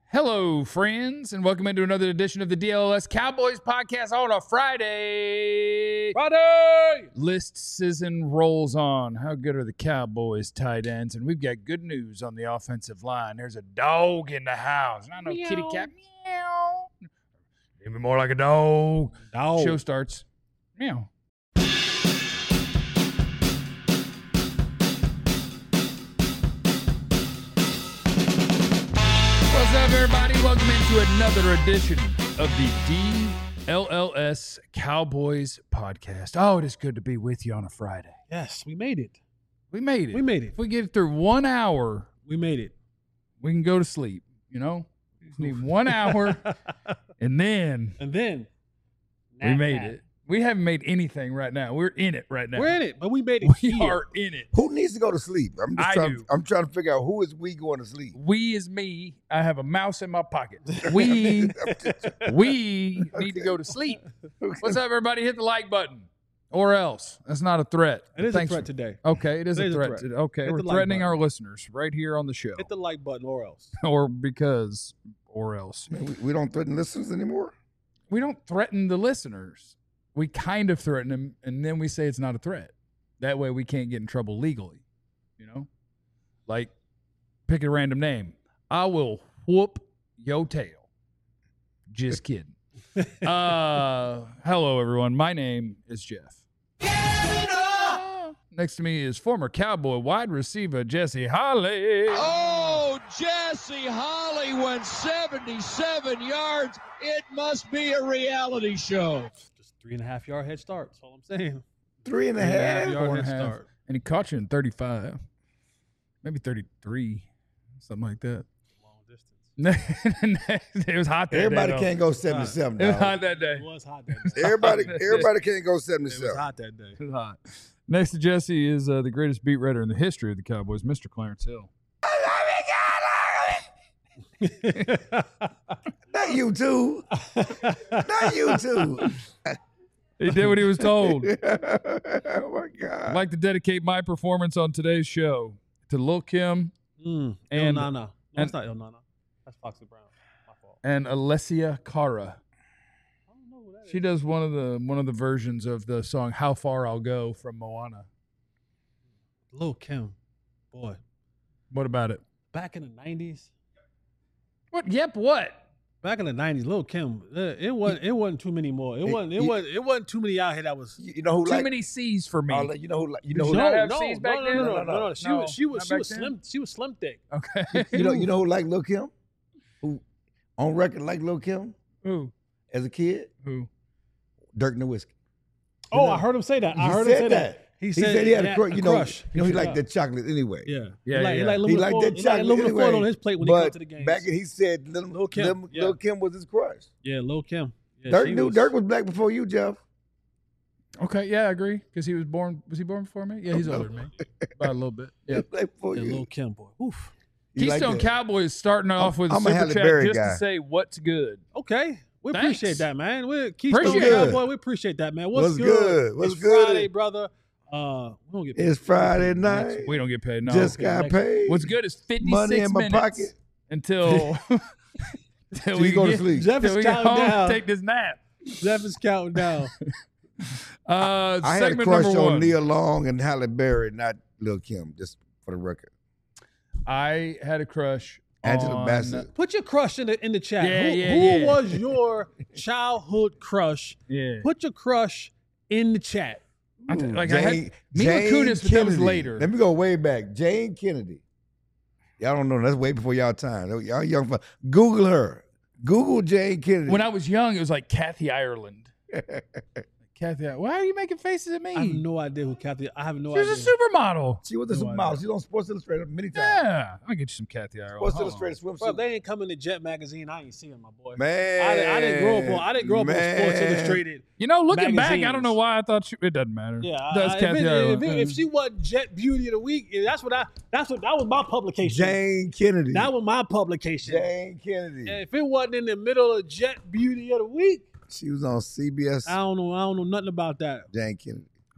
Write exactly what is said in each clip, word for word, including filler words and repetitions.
Hello, friends, and welcome into another edition of the D L L S Cowboys podcast on a Friday. Friday! List season rolls on. How good are the Cowboys tight ends? And we've got good news on the offensive line. There's a dog in the house. Not no Meow. kitty cat. Meow. Maybe more like a dog. Dog. Show starts. Meow. What's up, everybody? Welcome into another edition of the D L L S Cowboys podcast. Oh, it is good to be with you on a Friday. Yes, we made it. We made it. We made it. If we get through one hour, We made it. we can go to sleep, you know? We just need one hour, and then And then we nap, made nap. it. We haven't made anything right now. We're in it right now. We're in it, but we made it. We here. are in it. Who needs to go to sleep? I'm just I trying. do. I'm trying to figure out who is we going to sleep. We is me. I have a mouse in my pocket. We we need to go to sleep. What's up, everybody? Hit the like button, or else. That's not a threat. It is Thanks a threat for- today. Okay, it is It a is a threat. threat. today. Okay, Hit we're the like threatening button. our listeners right here on the show, Hit the like button or else. or because, or else. Man, we, we don't threaten listeners anymore. We don't threaten the listeners. We kind of threaten them, and then we say it's not a threat. That way, we can't get in trouble legally. You know, like pick a random name. I will whoop your tail. Just kidding. uh, hello, everyone. My name is Jeff. Uh, Next to me is former Cowboy wide receiver Jesse Holly. Oh, Jesse Holly went seventy-seven yards. It must be a reality show. Just three and a half yard head start. That's all I'm saying. Three and a Three and a half. half yard Four and head a half. start. And he caught you in thirty-five, maybe thirty-three, something like that. Long distance. It was hot that Everybody day. though. can't go seventy-seven. It was dog. hot that day. It was hot that day. Everybody, everybody can't go It was seventy-seven. hot that day. It was hot. Next to Jesse is uh, the greatest beat writer in the history of the Cowboys, Mister Clarence Hill. Not you too. Not you too. He did what he was told. oh my I'd God. like to dedicate my performance on today's show to Lil Kim Mm. And- El Nana. No, and- it's not El Nana. That's Foxy Brown. My fault. and Alessia Cara. I don't know who that is. She does one of the one of the versions of the song "How Far I'll Go" from Moana. Lil Kim. Boy. What about it? Back in the nineties. What? Yep. What? Back in the nineties, Lil Kim, uh, it wasn't it wasn't too many more. It He- wasn't it he- wasn't it wasn't too many out here that was You, you know who Too like? many C's for me. oh, you know who? Like, you know Did who? you not no, have no, C's back no, then? no, no, No, no, no, no, no. no. She No, was she was not she back was then? slim she was slim thick. Okay. You know, you know who like Lil Kim? Who on record like Lil Kim Who? as a kid? Who? Dirk Nowitzki. Oh, know, I heard him say that. I he heard him said say that. that. He He said, said he had a, yeah, crush. You know, crush. you know he Yeah. liked that chocolate anyway. Yeah, Yeah, he like, yeah. he like He aluminum liked foil. that He like chocolate aluminum foil anyway. on his plate when he but got to the game. back in, he said Lil, Lil Kim, Lil, yeah. Lil Kim was his crush. Yeah, Lil Kim. Yeah, Dirk she knew was- Dirk was black before you, Jeff. Okay. Yeah, I agree. Because he was born. Was he born before me? Yeah, he's older than me by a little bit. He Yeah. was black before Yeah, you. Lil Kim, boy. Oof. You like Keystone that? Cowboys starting off with a I'm a super Halle chat Berry just guy. to say what's good. Okay. We Thanks. appreciate that, man. We Keystone Appreciate it. Cowboy. We appreciate that, man. What's, What's good? What's it's good? Friday, brother. Uh, we don't get paid. It's Friday night. We don't get paid. No. Just got next- paid. What's good is fifty-six Money in my minutes pocket. until until you we go to get, sleep. Jeff till is we get counting home down. and take this nap. Jeff is counting down. Uh, I had a segment crush number on one. Nia Long and Halle Berry, not Lil Kim, just for the record. I had a crush Angela on Bassett. Put your crush in the in the chat. Yeah, who yeah, who yeah. was your childhood crush? Yeah. Put your crush in the chat. I th- Ooh, like I had Jane- Mila Jane Kunis, but that was Kennedy. later. Let me go way back. Jane Kennedy. Y'all don't know. That's way before y'all time. Y'all young. For, Google her. Google Jane Kennedy. When I was young, it was like Kathy Ireland. Kathy, why are you making faces at me? I have no idea who Kathy. I have no she idea. was a supermodel. she was a No supermodel. idea. She was on Sports Illustrated many times. Yeah, I'll get you some Kathy Ireland. Sports Hold Illustrated on. swimsuit. Bro, if they ain't coming to Jet magazine, I ain't seeing my boy. Man, I, didn't- I didn't grow up on. I didn't grow up on Sports Man. Illustrated. You know, looking back, I Magazines. don't know why I thought she, it doesn't matter. Yeah, that's I- if, Kathy it- Ireland. if, it- if she wasn't Jet Beauty of the Week, that's what I. That's what that was my publication. Jane Kennedy. That was my publication. Jane Kennedy. And if it wasn't in the middle of Jet Beauty of the Week, She was on C B S. I don't know. I don't know nothing about that. Jane Kennedy.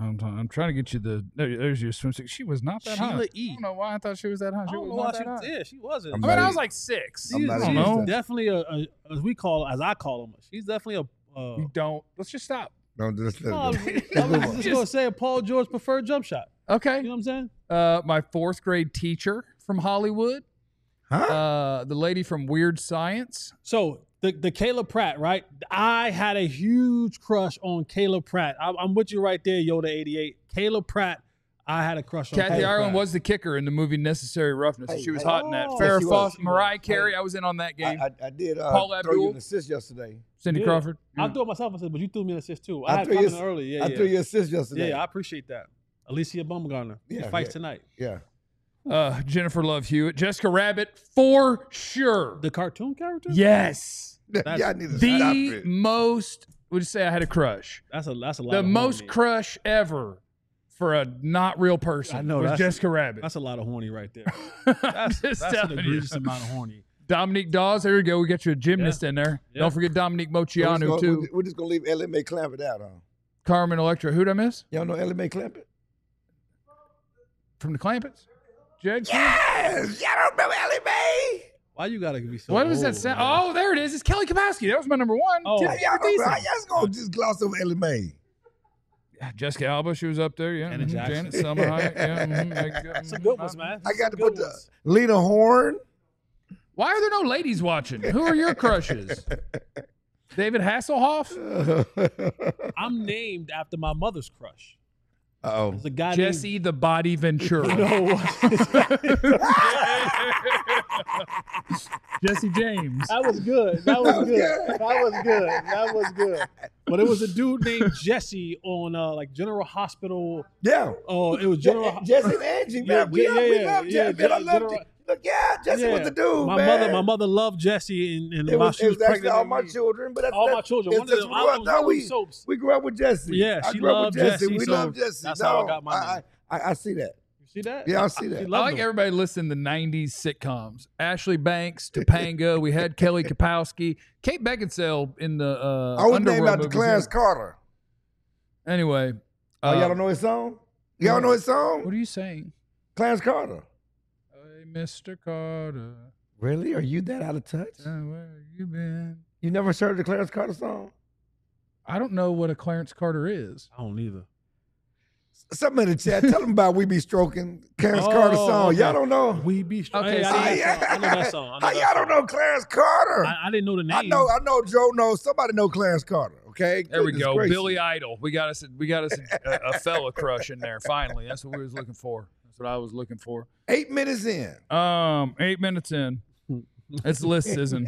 I'm, t- I'm trying to get you the. There, there's your swimsuit. She was not that Sheila hot. E. I don't know why I thought she was that hot. I She don't was know not why that hot. she. Yeah, she wasn't. I'm I mean, not I was even- like six. She's, I'm not I don't she's know. definitely a, a, as we call, as I call them. She's definitely a. Uh, You don't. Let's just stop. Don't just let no, I it was, go. I Let's was move on. just gonna say a Paul George preferred jump shot. Okay. You know what I'm saying? Uh, my fourth grade teacher from Hollywood. Huh? Uh, the lady from Weird Science. So the the Kayla Pratt, right? I had a huge crush on Kayla Pratt. I, I'm with you right there, Yoda eighty-eight. Kayla Pratt, I had a crush on. Kathy Kayla Ireland Pratt. was the kicker in the movie Necessary Roughness. and Hey, she was hey. hot in that. Oh, Farrah she was. Fawcett, She was. Mariah Carey. Hey. I was in on that game. I, I, I did uh, Paul throw Abdul. you an assist yesterday. Cindy Yeah. Crawford. I Yeah. threw it myself, I said, but you threw me an assist too. I I, had threw you commented earlier. Yeah, I yeah. threw you an assist yesterday. Yeah, I appreciate that. Alicia Baumgartner. She Yeah, fights yeah. tonight. yeah. Uh, Jennifer Love Hewitt. Jessica Rabbit for sure. The cartoon character? Yes. Yeah, I need to stop The it. most, would you say I had a crush? That's a that's a lot. The of most horny. crush ever for a not real person I know, was that's- Jessica Rabbit. That's a lot of horny right there. I'm That's, just that's an telling you. egregious amount of horny. Dominique Dawes, there you go. We got you a gymnast in there. Yeah. Don't forget Dominique We're just Moceanu, gonna- too. We're just going to leave Ellie Mae Clampett out, huh? Carmen Electra. Who'd I miss? Y'all know Ellie Mae Clampett? From the Clampets? Jag Smith? Yes! Y'all don't remember Ellie Mae? Why you gotta be so What does that old, sound? man? Oh, there it is. It's Kelly Kapowski. That was my number one. Oh. Tip How for y'all, decent. how y'all just going to just gloss over Ellie Mae? Jessica Alba, she was up there. Yeah. Janet mhm. Jackson. Janet, Selma Hayek. Yeah. mhm. Like, uh, Some good ones, man. I got to Some put good the ones. Lena Horne. Why are there no ladies watching? Who are your crushes? David Hasselhoff? I'm named after my mother's crush. Uh-oh. There's a guy Jesse the Body Ventura. named. Jesse James. That was good. That was good. That was good. That was good. But it was a dude named Jesse on uh, like General Hospital. Yeah. Oh, it was Je- General. Jesse and Angie, Yeah, man. We, yeah, love, we yeah, love yeah, Jesse, man. I Gen- love General- it. Look, yeah, Jesse was the dude, my man. mother, my mother loved Jesse, and, and It while was, she it was, was actually pregnant. all with my me- children, but that's all that, my children. it's One of just- them, we, I grew up- was no, one of we, them soaps. we grew up with Jesse. Yeah, I she grew up loved with Jesse. Jesse, We so love Jesse. that's no, how I got my I, I, I see that. You see that? Yeah, I see She that. I loved like them. everybody listening to nineties sitcoms. Ashley Banks, Topanga. We had Kelly Kapowski. Kate Beckinsale in the uh, I was named Underworld after movies, Clarence yeah. Carter. Anyway. Oh, uh, y'all don't know his song? Y'all know his song? What are you saying? Clarence Carter. Hey, Mister Carter. Really? Are you that out of touch? uh, Where you been? You never heard the Clarence Carter song? I don't know what a Clarence Carter is. I don't either. Something in the chat. Tell them about We Be Stroking, Clarence Oh, Carter song. okay. Y'all don't know? We be strong. Okay, Hey, see, I, Ah, know that song. I know that song. I know How that y'all don't song. know Clarence Carter? I, I didn't know the name. I know, I know Joe knows. Somebody know Clarence Carter, okay? There we Goodness go. gracious. Billy Idol. We got us. A, we got us a, a fella crush in there. Finally, that's what we was looking for. That's what I was looking for. Eight minutes in. Um, eight minutes in. It's list season.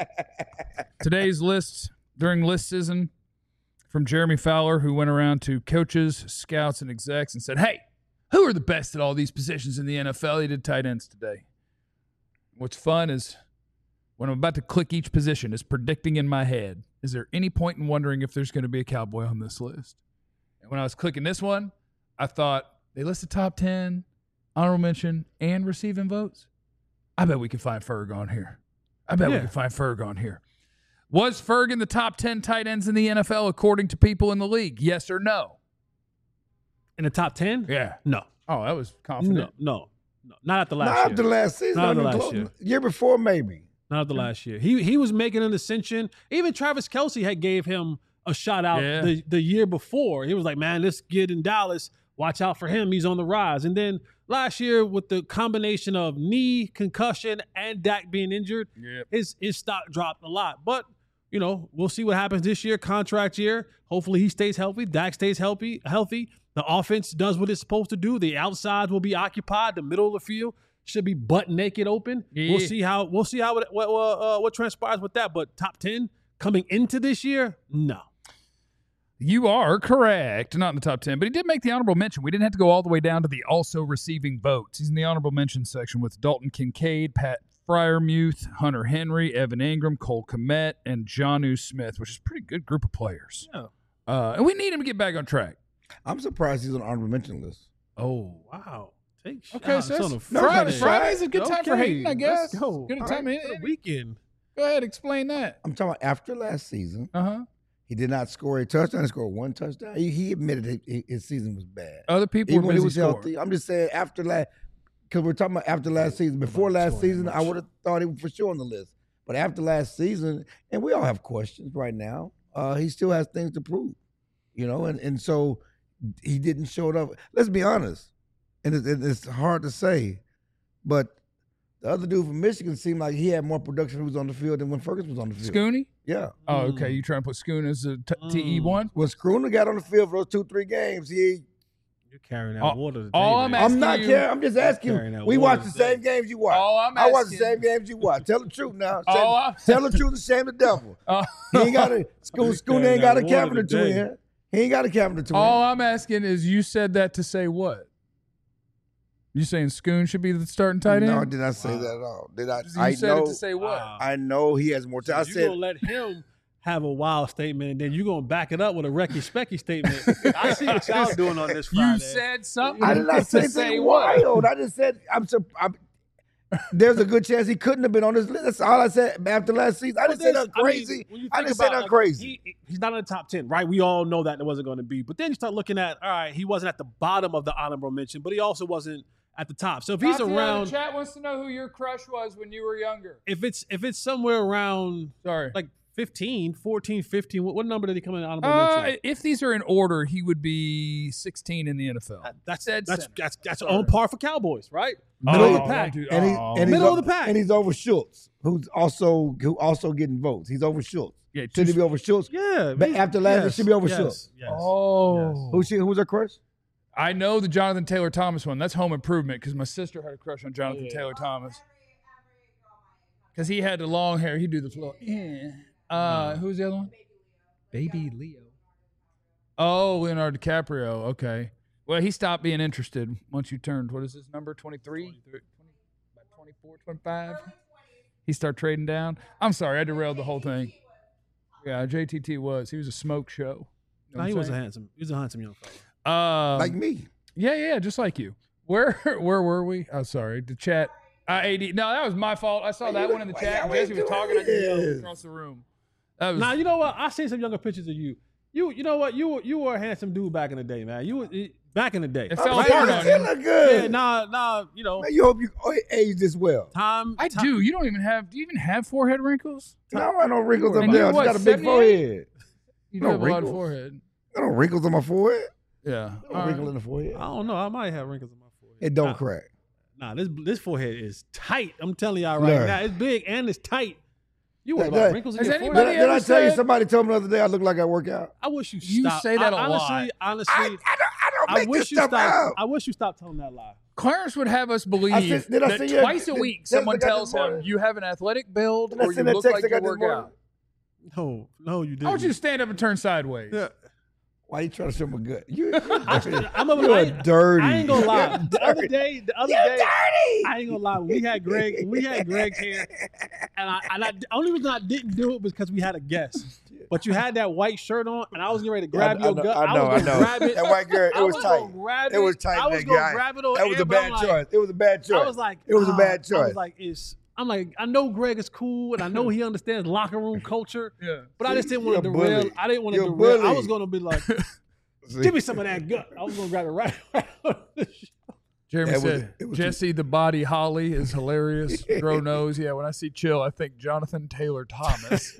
Today's list during list season from Jeremy Fowler, who went around to coaches, scouts, and execs and said, "Hey, who are the best at all these positions in the N F L?" He did tight ends today. What's fun is when I'm about to click each position, is predicting in my head, is there any point in wondering if there's going to be a Cowboy on this list? And when I was clicking this one, I thought, they listed top ten, honorable mention, and receiving votes. I bet we can find Ferg on here. I bet we Yeah. can find Ferg on here. Was Ferg in the top ten tight ends in the N F L according to people in the league? Yes or no? In the top ten? Yeah. No. Oh, that was No, confident. no, no. Not after Not last after year. last season. Not after Not last year. Year before, maybe. Not after last year. He he was making an ascension. Even Travis Kelce had gave him a shout out Yeah. the, the year before. He was like, man, this kid in Dallas, watch out for him. He's on the rise. And then last year, with the combination of knee concussion and Dak being injured, Yep. his his stock dropped a lot. But you know, we'll see what happens this year. Contract year. Hopefully, he stays healthy. Dak stays healthy. Healthy. The offense does what it's supposed to do. The outsides will be occupied. The middle of the field should be butt naked open. Yeah. We'll see how we'll see how it, what uh, what transpires with that. But top ten coming into this year, no. You are correct. Not in the top ten, but he did make the honorable mention. We didn't have to go all the way down to the also receiving votes. He's in the honorable mention section with Dalton Kincaid, Pat Fryermuth, Hunter Henry, Evan Ingram, Cole Kmet, and Jonnu Smith, which is a pretty good group of players. Yeah. Uh, and we need him to get back on track. I'm surprised he's on the honorable mention list. Oh. Wow. Take Okay, shots sis. on a No, Friday, Friday. Friday's a good time for Okay, hating, I guess. let's go. Good All time. right, For Go the weekend. ahead, explain that. I'm talking about after last season. Uh huh. He did not score a touchdown. He scored one touchdown. He, he admitted he, his season was bad. Other people Even were when he busy was scoring. healthy. I'm just saying after last, because we're talking about after last season. Before last season, I would have thought he was for sure on the list. But after last season, and we all have questions right now, uh, he still has things to prove, you know. And and so he didn't show it up. Let's be honest, and it, it, it's hard to say, but the other dude from Michigan seemed like he had more production when he was on the field than when Ferguson was on the field. Scooney? Yeah. Oh, Mm. okay. You trying to put Scoon as a t- T E one? When Schooner got on the field for those two, three games, he. You're carrying that All- water today, all man. I'm I'm asking not you- caring. I'm just asking. carrying that We water watch the today. same games you watch. All I'm I watch the asking- same games you watch. Tell the truth now. Say- All I'm- Tell the truth and shame the devil. Oh. He ain't got a Schoon, He's Schooner carrying ain't got a that water cabinet to today. win. He ain't got a cabinet to All win. I'm asking is you said that to say what? You saying Scoon should be the starting tight end? No, I did not say that at all. Did I? You I said know. it to say what? Wow. I know he has more So time. I you said gonna let him have a wild statement, and then you gonna back it up with a Recky Specky statement. I see what y'all doing on this Friday. You said something. I did not say to say anything what? wild. I just said I'm, sur- I'm. There's a good chance he couldn't have been on this list. That's all I said after last season. I Well, didn't say there's- nothing crazy. I, mean, when you I think didn't say about, nothing like, crazy. He, he's not in the top ten, right? We all know that it wasn't going to be. But then you start looking at, all right, he wasn't at the bottom of the honorable mention, but he also wasn't at the top. So if he's Tatiana in around, the chat wants to know who your crush was when you were younger. if it's if it's somewhere around Sorry. like fifteen, fourteen, fifteen, what, what number did he come in honorable Uh, mention? if these are in order, he would be sixteen in the N F L. That- That's Dead that's center. that's that's Sorry. on par for Cowboys, right? Oh, Middle of the don't pack. do- And, he, oh. and he's Middle o- of the pack. And he's over Schultz, who's also who also getting votes. He's over Schultz. Yeah, Should he two- be over Schultz? Yeah. But he- after last, it yes, should be over yes, Schultz. Yes. Oh. Who's she? Who's her crush? I know the Jonathan Taylor Thomas one. That's Home Improvement because my sister had a crush on Jonathan Yeah. Taylor Thomas. Because he had the long hair. He'd do the flow. Yeah. Uh, who's the other one? Baby Leo. Oh, Leonardo DiCaprio. Okay. Well, he stopped being interested once you turned, what is his number? twenty-three? About twenty-four, twenty-five? He started trading down. I'm sorry, I derailed the whole thing. Yeah, J T T was. He was a smoke show. You know No, what he I'm was a saying? handsome. He was a handsome young fellow. Um, Like me. Yeah, yeah, just like you. Where where were we? Oh, sorry. The chat. Uh, A D. No, that was my fault. I saw that one in the Why chat. y'all Jesse was ain't talking. I doing could yell this? across the room. That was. Now you know what? I seen some younger pictures of you. You you know what? You were you were a handsome dude back in the day, man. You were back in the day. It fell Man, apart you on still you. look good. Yeah, nah, nah. You know, Man, you hope you age this well. time. I time, do. You don't even have. Do you even have forehead wrinkles? No, I no wrinkles up And there. you're I just what, got a big seventy-eight? forehead. You No do have a lot of wrinkles. forehead. I don't wrinkles on my forehead. Yeah. No All wrinkle right. in the forehead. I don't know. I might have wrinkles on my forehead. It don't Nah, crack. Nah, this this forehead is tight. I'm telling y'all right Look. now, it's big and it's tight. You worry That- about that- wrinkles in Has your anybody Did, I- forehead? did I ever tell you said- somebody told me the other day I look like I work out? I wish you You stop. say that I, a lot. honestly, honestly, I, I don't, I don't I make wish this you stuff stop. out. I wish you stopped telling that lie. Clarence would have us believe I said- did I that send you- twice a did- week did- someone did I got tells this him morning? you have an athletic build Did I or you send that look text like I you got this work morning? out. No, no, you didn't. I want you to stand up and turn sideways. Yeah. Why you trying to show me good? You, I, you're I'm a, You're I, dirty. I ain't gonna lie. You're The other dirty. day, the other You're day, dirty. I ain't gonna lie. We had Greg. when We had Greg here, and I, and I, the only reason I didn't do it was because we had a guest. But you had that white shirt on, and I was getting ready to grab I, your I know, gut. I know, I was know. gonna grab it. That white girl, it I was was tight. gonna grab It was tight. I was that gonna guy. grab it on That was air, a but I'm bad like- choice. It was a bad choice. I was like, it was a ah, bad I choice. was like, it's. I'm like, I know Greg is cool, and I know he understands locker room culture, Yeah. but I just didn't want to You're a derail. bully. I didn't want to You're a derail. I bully. was gonna be like, See? give me some of that gut. I was gonna grab it right. right on the show. Jeremy It was- said, it was- Jesse the Body Holly is hilarious. Bro knows. Yeah, when I see Chill, I think Jonathan Taylor Thomas.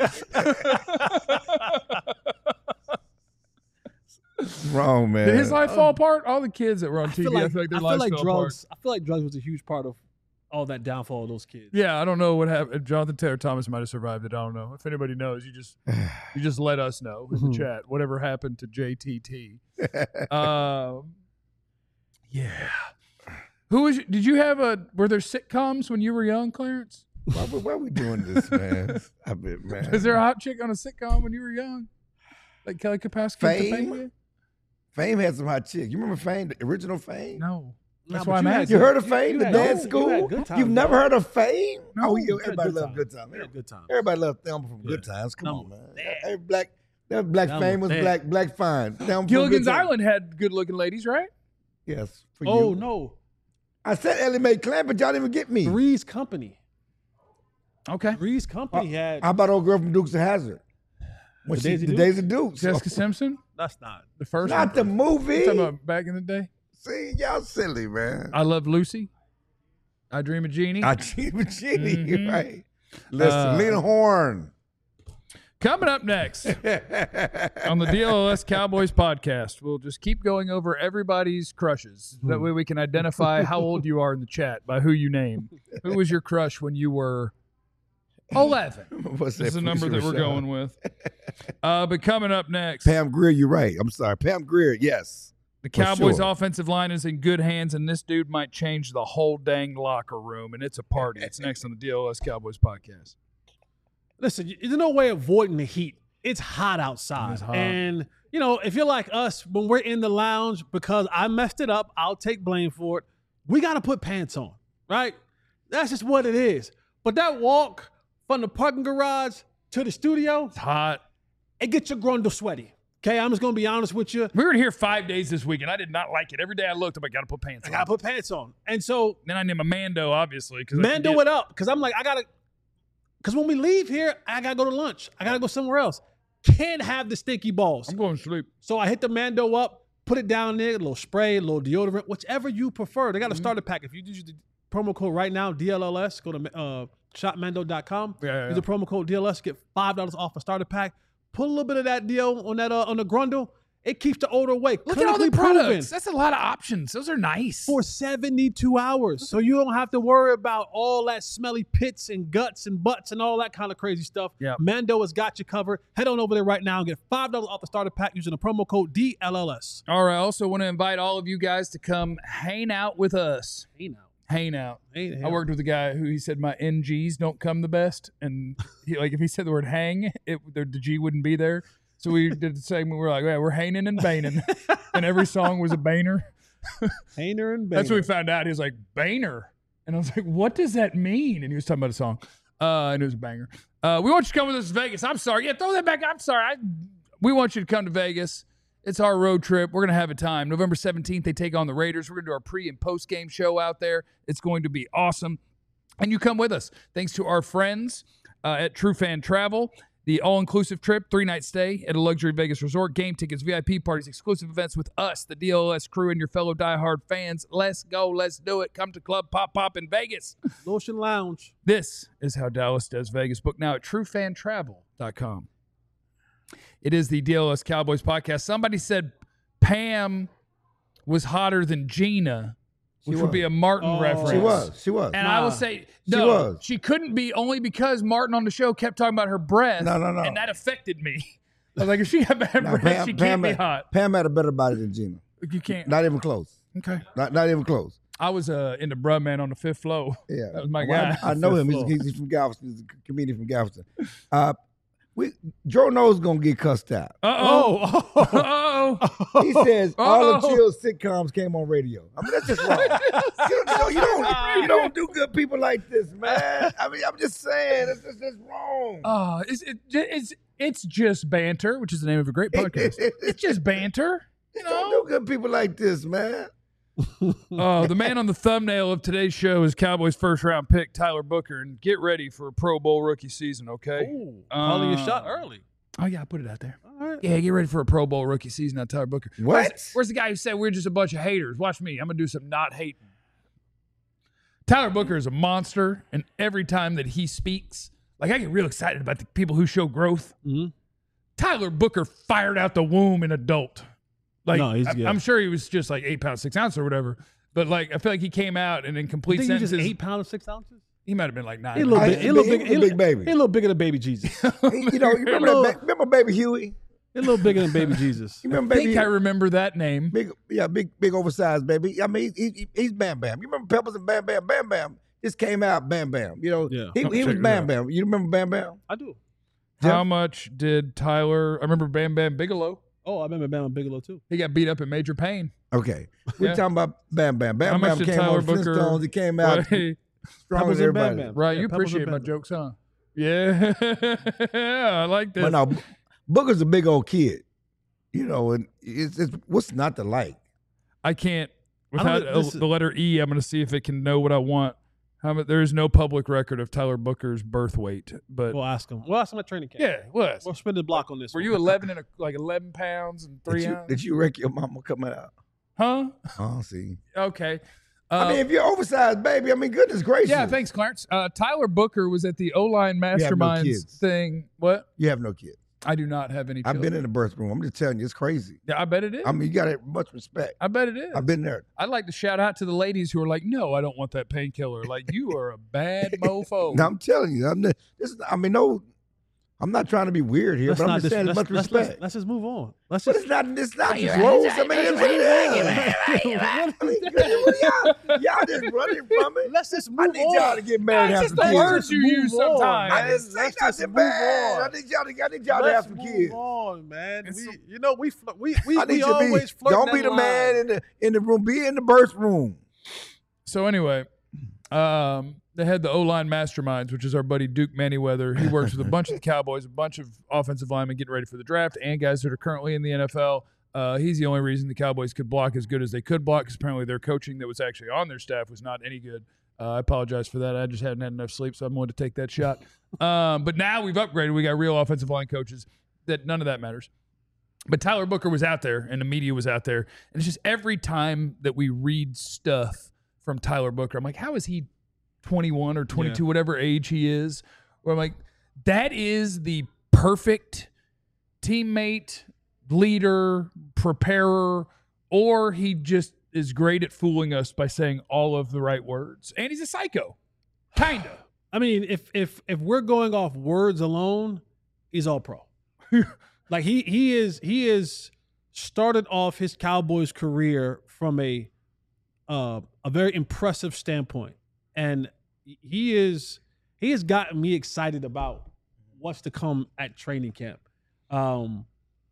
Wrong, man. Did his life fall apart? All the kids that were on I T V, feel I like, feel like their I feel lives like fell drugs. apart. I feel like drugs was a huge part of all that downfall of those kids. Yeah, I don't know what happened. Jonathan Taylor Thomas might have survived it. I don't know. If anybody knows, you just you just let us know in the chat. Whatever happened to J T T. Um, yeah. Who was? Did you have a? Were there sitcoms when you were young, Clarence? Why, we- why are we doing this, man? I bet, man. Is there a hot chick on a sitcom when you were young, like Kelly Kapowski? Fame? Topanga? Fame had some hot chicks. You remember Fame, the original Fame? No. Nah, That's but why I'm you had asking. You heard of You- Fame, you the had- dance you school? had good times, You've never though. heard of Fame? No. Oh, you, You had everybody good loved times. Good Time. You had good times. Everybody loved Thelma from Yeah. Good Times. Come Thelma on, man. was bad. Every black, that black Thelma Fame was was bad. black, black fine. Thelma from Gilligan's Good Times. Island had good-looking ladies, right? Yes, for Oh you. no, I said Ellie Mae Clamp, but y'all didn't even get me. Three's Company. Okay. Three's Company had. How about old girl from Dukes of Hazzard? When The she- Daisy the Dukes? Days of Dukes. Jessica Simpson, That's not. the first Not the one. movie. You talking about back in the day. See, y'all silly, man. I Love Lucy. I Dream of Jeannie. I Dream of Jeannie, Mhm. right? Listen, Uh, Lena Horne. Coming up next on the D L L S Cowboys podcast, we'll just keep going over everybody's crushes. That way we can identify how old you are in the chat by who you name. Who was your crush when you were eleven? What's This is that? the number that we're Felicia going with. Uh, but coming up next, Pam Grier, you're right. I'm sorry. Pam Grier, yes. the for Cowboys sure. offensive line is in good hands, and this dude might change the whole dang locker room, and it's a party. It's next on the D L L S Cowboys podcast. Listen, there's no way avoiding the heat. It's hot outside. It's hot. And, you know, if you're like us, when we're in the lounge, because I messed it up, I'll take blame for it. We got to put pants on, right? That's just what it is. But that walk from the parking garage to the studio, It's hot. it gets your grundle sweaty. Okay, I'm just going to be honest with you. We were here five days this week, and I did not like it. Every day I looked, I'm like, gotta put pants I on. got to put pants on. And so, Then I named a Mando, obviously. Because Mando it up, because I'm like, I got to, because when we leave here, I got to go to lunch. I got to go somewhere else. Can't have the stinky balls. I'm going to sleep. So I hit the Mando up, put it down there, a little spray, a little deodorant, whichever you prefer. They got a starter pack. If you use the promo code right now, D L L S, go to uh, shop mando dot com. Yeah, yeah, Use the promo code D L L S, get five dollars off a starter pack. Put a little bit of that deal on that uh, on the grundle. It keeps the odor away. Look at all the Clinically proven products. That's a lot of options. Those are nice. for seventy-two hours. So you don't have to worry about all that smelly pits and guts and butts and all that kind of crazy stuff. Yeah. Mando has got you covered. Head on over there right now and get five dollars off the starter pack using the promo code D L L S. All right. I also want to invite all of you guys to come hang out with us. Hey now. Hang out. Hey, I worked with a guy who he said my N Gs don't come the best, and he, like if he said the word hang, it the, the G wouldn't be there. So we did the segment. We were like, yeah, we're hanging and baning, and every song was a baner. Hainer and Bainer. That's what we found out. He was like baner, and I was like, what does that mean? And he was talking about a song, uh, and it was a banger. Uh, we want you to come with us to Vegas. I'm sorry. Yeah, throw that back. I'm sorry. I, we want you to come to Vegas. It's our road trip. We're going to have a time. November seventeenth, they take on the Raiders. We're going to do our pre- and post-game show out there. It's going to be awesome. And you come with us. Thanks to our friends uh, at True Fan Travel. The all-inclusive trip, three-night stay at a luxury Vegas resort, game tickets, V I P parties, exclusive events with us, the D L L S crew, and your fellow diehard fans. Let's go. Let's do it. Come to Club Pop Pop in Vegas. Lotion Lounge. This is how Dallas does Vegas. Book now at true fan travel dot com. It is the D L L S Cowboys podcast. Somebody said Pam was hotter than Gina, which She would be was. a Martin Oh. reference. She was. She was. And Nah. I will say, She no, was. she couldn't be only because Martin on the show kept talking about her breath. No, no, no. And that affected me. I was like, if she got bad No, breath, Pam, she can't Pam be had, hot. Pam had a better body than Gina. You can't. Not even close. Okay. Not not even close. I was uh, in the Bruh Man on the fifth floor. Yeah, That was my Well, guy. I, I know him. He's, Floor. he's from Galveston. He's a comedian from Galveston. Uh, we Joe knows gonna get cussed out. Uh-oh. Oh. Uh-oh. He says all the Uh-oh. chill sitcoms came on radio. I mean that's just wrong. you, don't, you don't you don't do good people like this, man. I mean I'm just saying it's just it's wrong. Uh, it's, it, it's, it's just banter, which is the name of a great podcast. It's just banter. You Don't know? do good people like this, man. Uh, the man on the thumbnail of today's show is Cowboys first round pick, Tyler Booker. And get ready for a Pro Bowl rookie season, okay? Ooh, calling your Uh, shot early. Oh, yeah, I put it out there. All right. Yeah, get ready for a Pro Bowl rookie season on Tyler Booker. What? Where's, where's the guy who said we're just a bunch of haters? Watch me. I'm going to do some not hating. Tyler Booker is a monster, and every time that he speaks, like I get real excited about the people who show growth. Mm-hmm. Tyler Booker fired out the womb an adult. Like No, he's I, good. I'm sure he was just like eight pounds, six ounces or whatever. But like I feel like he came out and in You complete think he was sentences, just eight pounds, six ounces? he might have been like nine. He a little I- bit. He a little he big. was a he big baby. He a little bigger than baby Jesus. He you know, you remember, Hello. that, ba- remember baby Huey? a little bigger than baby Jesus. You I remember think baby I remember that name. Big, yeah, big, big oversized baby. I mean, he, he, he's Bam Bam. You remember Peppers and Bam Bam? Bam Bam just came out. Bam Bam. You know, Yeah. he, I'm he was checking it Bam out. Bam. You remember Bam Bam? I do. How much did Tyler? I remember Bam Bam Bigelow. Oh, I remember Bama Bigelow too. He got beat up in Major Pain. Okay, we're Yeah. talking about Bam Bam. How Bam much Bam did came Tyler on Booker- Flintstones. He came out Right, stronger Peppers than and Bam everybody. Bam. right, Yeah, you Pebbles appreciate and my Bam Bam. jokes, huh? Yeah, I like this. But no, Booker's a big old kid. You know, and it's, it's what's not to like. I can't. I don't Without know, this uh, the letter E, I'm going to see if it can know what I want. How about, there is no public record of Tyler Booker's birth weight, but We'll ask him. We'll ask him at training camp. yeah, it was. We'll spin the block on this. Were one. you eleven and a, like eleven pounds and three Did you, ounces? did you wreck your mama coming out? Huh? Oh, see. Okay. Uh, I mean, if you're oversized, baby, I mean, goodness gracious. yeah, thanks, Clarence. Uh, Tyler Booker was at the O-line have no Masterminds kids. thing. What? You have no kids. I do not have any I've children. been in the birth room. I'm just telling you, it's crazy. Yeah, I bet it is. I mean, you got to have much respect. I bet it is. I've been there. I'd like to shout out to the ladies who are like, no, I don't want that painkiller. Like, you are a bad mofo. Now, I'm telling you, I'm the, this is, I mean, no, I'm not trying to be weird here, Let's but I'm not just dis- saying let's, much let's, respect. let's, let's just move on. Let's But just it's not, it's not Yeah, just rules. I mean, let's it's just move on. I mean, y'all, y'all just running from it. let's just move I need on. y'all to get married and have That's some just the kids. words you Move use on, sometimes. I man. didn't say Let's just nothing move bad. on. I need y'all to, I need y'all to Let's have some move kids. on, man. It's- We, you know, we fl- we we, I need we you to always be, flirt. don't that be the line. man in the in the room. Be in the birth room. So anyway, um, they had the O-line Masterminds, which is our buddy Duke Manyweather. He works with a bunch of the Cowboys, a bunch of offensive linemen getting ready for the draft, and guys that are currently in the N F L. Uh, he's the only reason the Cowboys could block as good as they could block, because apparently their coaching that was actually on their staff was not any good. Uh, I apologize for that. I just hadn't had enough sleep, so I'm going to take that shot. Um, but now we've upgraded. We got real offensive line coaches. That none of that matters. But Tyler Booker was out there, and the media was out there, and it's just every time that we read stuff from Tyler Booker, I'm like, how is he twenty-one or twenty-two, Yeah. whatever age he is? Where I'm like, that is the perfect teammate, leader, preparer, or he just is great at fooling us by saying all of the right words. And he's a psycho. Kind of. I mean, if if if we're going off words alone, he's all pro. Like he he is he is started off his Cowboys career from a uh, a very impressive standpoint, and he is he has gotten me excited about what's to come at training camp. Um,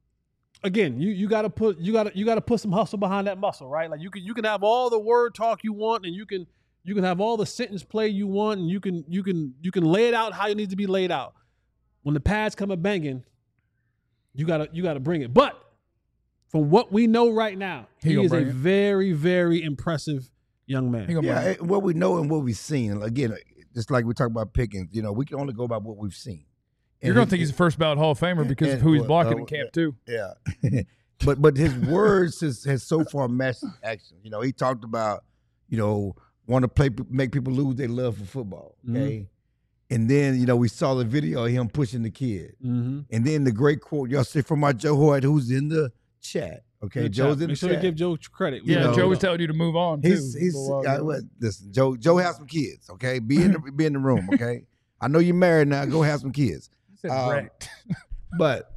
again, you you got to put you got to you got to put some hustle behind that muscle, right? Like you can you can have all the word talk you want, and you can you can have all the sentence play you want, and you can you can you can lay it out how it needs to be laid out. When the pads come a banging, you gotta you gotta bring it. But from what we know right now, He he, gonna is a bring it. very very impressive young man. He gonna Yeah, bring it. it- what we know and what we've seen. And again, just like we talk about Pickens, you know, we can only go by what we've seen. You're And going he- to think he's a first ballot Hall of Famer because of and- who he's well, blocking uh, in camp, too. Yeah. but but his words has, has so far matched action. You know, he talked about, you know, want to play make people lose their love for football. Okay. And then, you know, we saw the video of him pushing the kid. Mm-hmm. And then the great quote y'all say from our Joe Hoyt, who's in the chat. Okay. Joe's in the Make sure chat. to give Joe credit. Yeah, know, Joe was telling you to move on, too. He's he's a little while uh, ago. what, listen, Joe Joe has some kids, okay? Be in the be in the room, okay? I know you're married now. Go have some kids. He said um, wrecked. But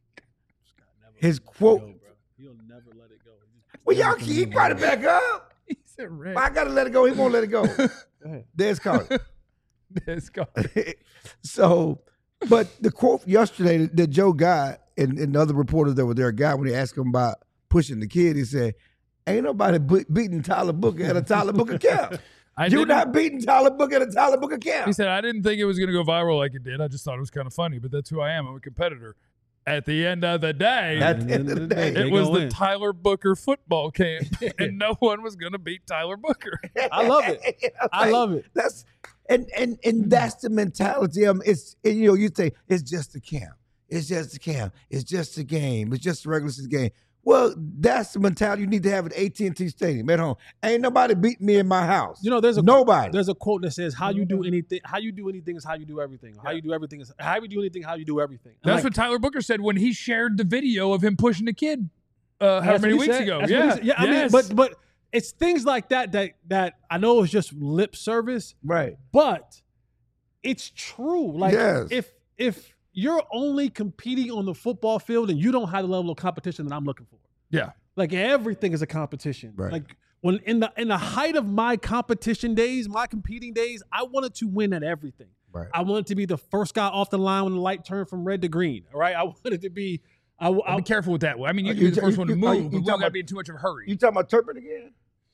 his quote, He'll never let it go. well, y'all keep brought it back up. He said wrecked. Well, I gotta let it go. He won't let it go. Go ahead. There's Carter. It's gone. So, but the quote yesterday that, that Joe got, and, and the other reporters that were there got when they asked him about pushing the kid, he said, "Ain't nobody be- beating Tyler Booker at a Tyler Booker camp. I You're didn't- not beating Tyler Booker at a Tyler Booker camp." He said, I didn't think it was going to go viral like it did. I just thought it was kind of funny, but that's who I am. I'm a competitor. At the end of the day, At the end of the day, They it was go the in. Tyler Booker football camp, and no one was going to beat Tyler Booker. I love it. I love it. That's and and and that's the mentality. Um, it's and, you know you say it's just a camp, it's just a camp, it's just a game, it's just a regular season game. Well, that's the mentality you need to have at A T and T Stadium at home. Ain't nobody beating me in my house. You know, there's a nobody. There's a quote that says, "How you do anything, how you do anything is how you do everything. How you do everything is how you do anything, how you do everything." I'm That's like, what Tyler Booker said when he shared the video of him pushing the kid uh, how that's many what he weeks said. ago. That's what Yeah, he said. yeah. I mean, yes. but but it's things like that that that I know is just lip service, right. but it's true. Like Yes. if if you're only competing on the football field and you don't have the level of competition that I'm looking for. yeah. Like everything is a competition. Right. Like when in the in the height of my competition days, my competing days, I wanted to win at everything. Right. I wanted to be the first guy off the line when the light turned from red to green. All right. I wanted to be. I, I, Be careful with that. I mean, you Are can be you the ta- first you- one to you- are you- move, you but we talking don't got to about- be in too much of a hurry. You talking about Turpin again?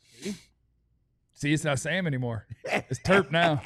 See, it's not Sam anymore. It's Terp now.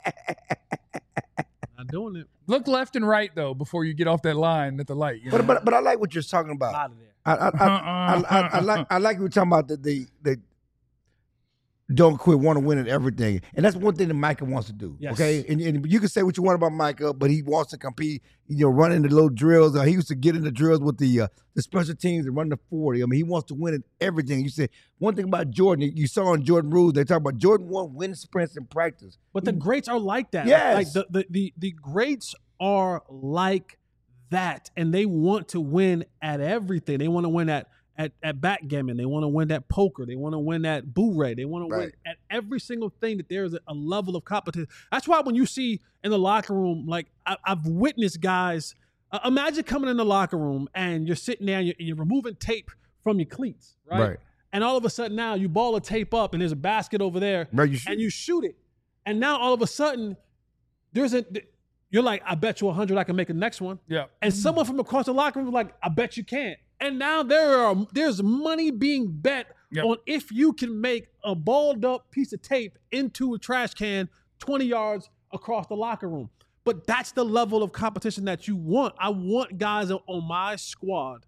not doing it. Look left and right, though, before you get off that line at the light. You know? But but but I like what you're talking about. Out of there. I I, I, I, I, I like I like you were talking about the the, the don't quit, want to win at everything. And that's one thing that Micah wants to do. Yes. Okay. And, and you can say what you want about Micah, but he wants to compete, you know, running the little drills. Uh, he used to get in the drills with the uh, the special teams and run the forty. I mean, he wants to win at everything. You said one thing about Jordan, you saw on Jordan Rules, they talk about Jordan won win sprints in practice. But the greats are like that. Yes. Like the, the, the, the greats are like that, and they want to win at everything. They want to win at At, at backgammon, they want to win that poker, they want to win that boo-ray, they want to win Right. at every single thing that there's a, a level of competition. That's why when you see in the locker room, like I, I've witnessed guys, uh, imagine coming in the locker room and you're sitting there and you're, and you're removing tape from your cleats, right? Right. And all of a sudden now you ball a tape up and there's a basket over there Right, you should. and you shoot it. And now all of a sudden there's a, you're like, I bet you a hundred I can make the next one. Yeah. And someone from across the locker room was like, I bet you can't. And now there are there's money being bet Yep. on if you can make a balled up piece of tape into a trash can twenty yards across the locker room. But that's the level of competition that you want. I want guys on my squad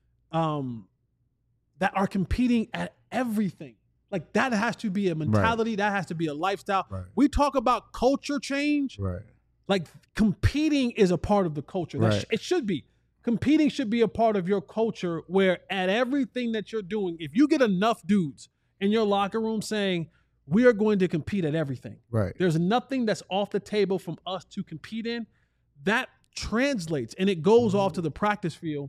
um, that are competing at everything. Like that has to be a mentality. Right. That has to be a lifestyle. Right. We talk about culture change. Right. Like competing is a part of the culture. Right. Sh- it should be. Competing should be a part of your culture where at everything that you're doing, if you get enough dudes in your locker room saying, we are going to compete at everything. Right. There's nothing that's off the table from us to compete in. That translates and it goes mm-hmm. off to the practice field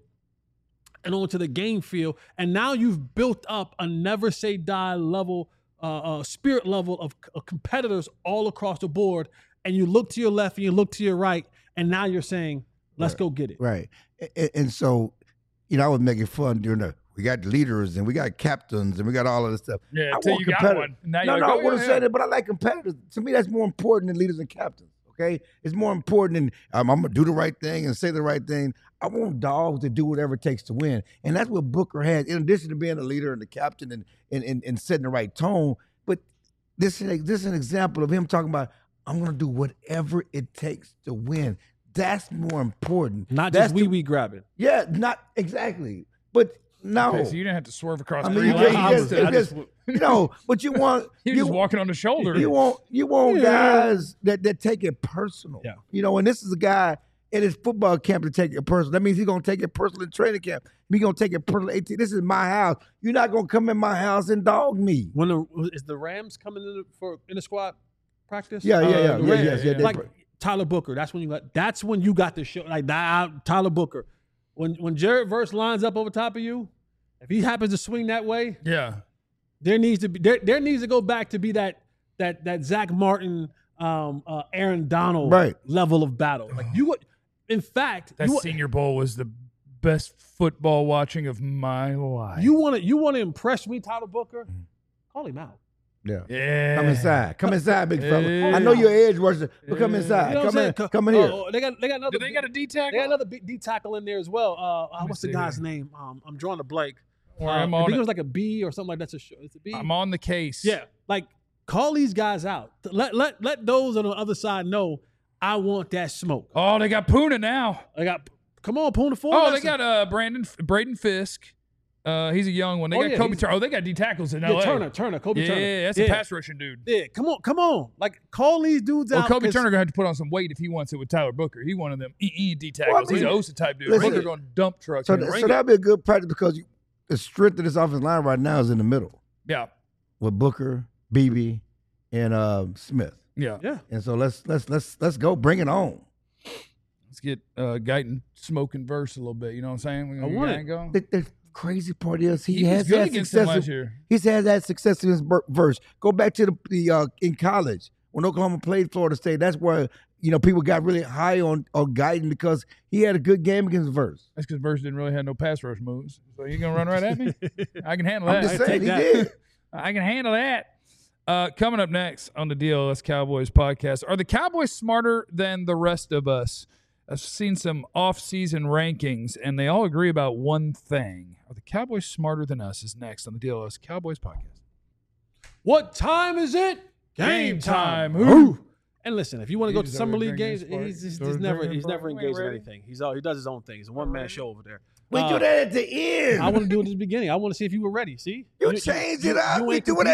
and onto the game field. And now you've built up a never say die level, uh, uh, spirit level of, of competitors all across the board. And you look to your left and you look to your right. And now you're saying, let's right. go get it. Right. And, and so, you know, I was making fun during the, we got leaders and we got captains and we got all of this stuff. Yeah, I until you got one. Now no, you're no, like, I oh, wouldn't yeah, say yeah. that, but I like competitors. To me, that's more important than leaders and captains, okay? It's more important than um, I'm going to do the right thing and say the right thing. I want dogs to do whatever it takes to win. And that's what Booker has, in addition to being a leader and the captain and, and, and, and setting the right tone. But this, this is an example of him talking about, I'm going to do whatever it takes to win. That's more important. Not That's just wee wee grabbing. Yeah, not exactly. But no. Okay, so you didn't have to swerve across I mean, three you lanes. just, to- just, just, you know, but you want You're you, just walking on the shoulder. you want you want Yeah. guys that, that take it personal. Yeah. You know, and this is a guy in his football camp to take it personal. That means he's gonna take it personal in training camp. He's gonna take it personal. eighteen This is my house. You're not gonna come in my house and dog me. When the, is the Rams coming in the, for in the squad practice? Yeah, yeah, Uh, yeah, the yeah, Rams- yes, yeah. they- Like Tyler Booker. That's when you got. That's when you got the show. Like that, Tyler Booker. When when Jared Verse lines up over top of you, if he happens to swing that way, Yeah. there needs to be there, there needs to go back to be that that that Zach Martin, um, uh, Aaron Donald Right. level of battle. Like you would, in fact, That you, Senior Bowl was the best football watching of my life. you want to you want to impress me, Tyler Booker? Call him out. Yeah. yeah. Come inside. Come inside, big fella. Yeah. I know you're edge rusher, but come Yeah. inside. You know what come I'm in. saying? Come in here. Oh, they got they got another. Do they got a D tackle? They got another B- D tackle in there as well. Uh, uh, me what's the see guy's here. name? Um, I'm drawing a blank. Or Uh, I'm I on think it it. was like a B or something like that. It's a sh- it's a B. I'm on the case. Yeah, like call these guys out. Let let let those on the other side know I want that smoke. Oh, they got Puna now. I got come on, Puna Ford. Oh, they got uh Brandon Braden Fisk. Uh, he's a young one. They Oh, got yeah, Kobe he's- Turner. Oh, they got D tackles in yeah, L A. Turner, Turner, Kobe yeah, Turner. that's yeah. a pass rushing dude. Yeah, come on, come on. Like call these dudes Well, out. Kobe 'cause- Turner gonna have to put on some weight if he wants it with Tyler Booker. He one of them E E D tackles. Well, I mean, he's an O S A type dude. listen, Booker gonna dump trucks. So, and th- ring so it. that'd be a good practice because you, the strength of this offensive line right now is in the middle yeah, with Booker, B B, and uh, Smith. yeah. Yeah, And so let's let's let's let's go. Bring it on. Let's get uh, Guyton smoking verse a little bit. You know what I'm saying? We I gonna want get it. Guyton going. The, the crazy part is he, He was has good had against them success. last in- year. He's had that success in his ver- verse. Go back to the, the uh, in college when Oklahoma played Florida State. That's where you know people got really high on on Guyton because he had a good game against Verse. That's because Verse didn't really have no pass rush moves. So you gonna run right at me? I can handle I'm that. just I saying he take that. did. I can handle that. Uh, coming up next on the D L S Cowboys podcast, are the Cowboys smarter than the rest of us? I've seen some off-season rankings, and they all agree about one thing. Are the Cowboys smarter than us? Is next on the D L S Cowboys podcast. what time is it? Game time. Ooh. And listen, if you want to He go to just summer over league drinking games, his Spark. he's, he's, Over he's never drinking he's Spark. never We ain't engaged in ready. anything. He's all he does his own thing. He's a one man show over there. We Uh, do that at the end. I want to do it at the beginning. I want to see if you were ready. See, you change it you- up. you We ain't do it at competing. the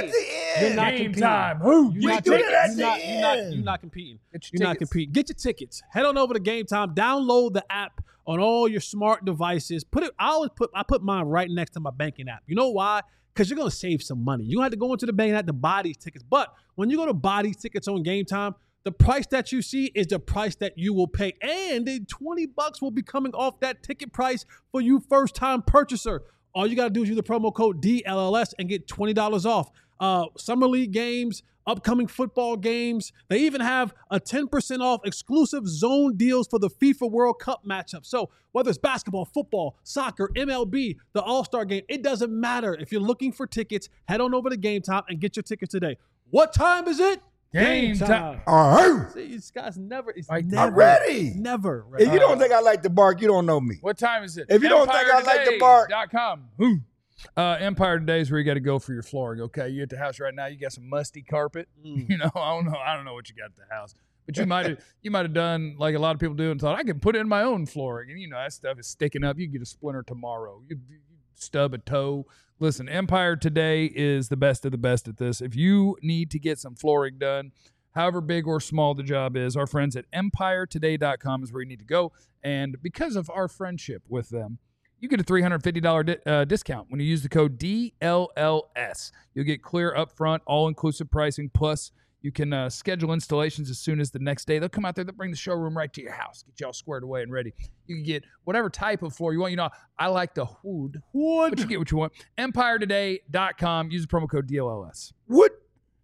You're not Game competing. time. Who? You're We not, do taking- that at you're the not, you're not, end. you're not competing. Get You're your not tickets. competing. Get your tickets. Head on over to Game Time. Download the app on all your smart devices. Put it. I always put. I put mine right next to my banking app. You know why? Because you're gonna save some money. You don't have to go into the banking app to buy these tickets. But when you go to buy these tickets on Game Time, the price that you see is the price that you will pay, and then twenty bucks will be coming off that ticket price for you first time purchaser. All you got to do is use the promo code D L L S and get twenty dollars off. Uh, summer league games, upcoming football games. They even have a ten percent off exclusive zone deals for the FIFA World Cup matchup. So whether it's basketball, football, soccer, M L B, the All-Star game, it doesn't matter. If you're looking for tickets, head on over to Game Time and get your tickets today. What time is it? Game time. All right. See, this guy's never, it's Like, never, I'm ready. never ready. If you don't think I like to bark, you don't know me. What time is it? If you don't think I like to bark- Dot com. Who? Uh, Empire Today is where you got to go for your flooring. Okay, you at the house right now. You got some musty carpet. Mm. You know, I don't know. I don't know what you got at the house, but you might have you might have done like a lot of people do and thought I can put in my own flooring, and you know that stuff is sticking up. You get a splinter tomorrow. You, you stub a toe. Listen, Empire Today is the best of the best at this. If you need to get some flooring done, however big or small the job is, our friends at empire today dot com is where you need to go. And because of our friendship with them, you get a three hundred fifty dollars di- uh, discount when you use the code D L L S. You'll get clear upfront, all-inclusive pricing, plus you can uh, schedule installations as soon as the next day. They'll come out there, they'll bring the showroom right to your house, get you all squared away and ready. You can get whatever type of floor you want. You know, I like the wood. Wood. But you get what you want. empire today dot com. Use the promo code D L L S. What?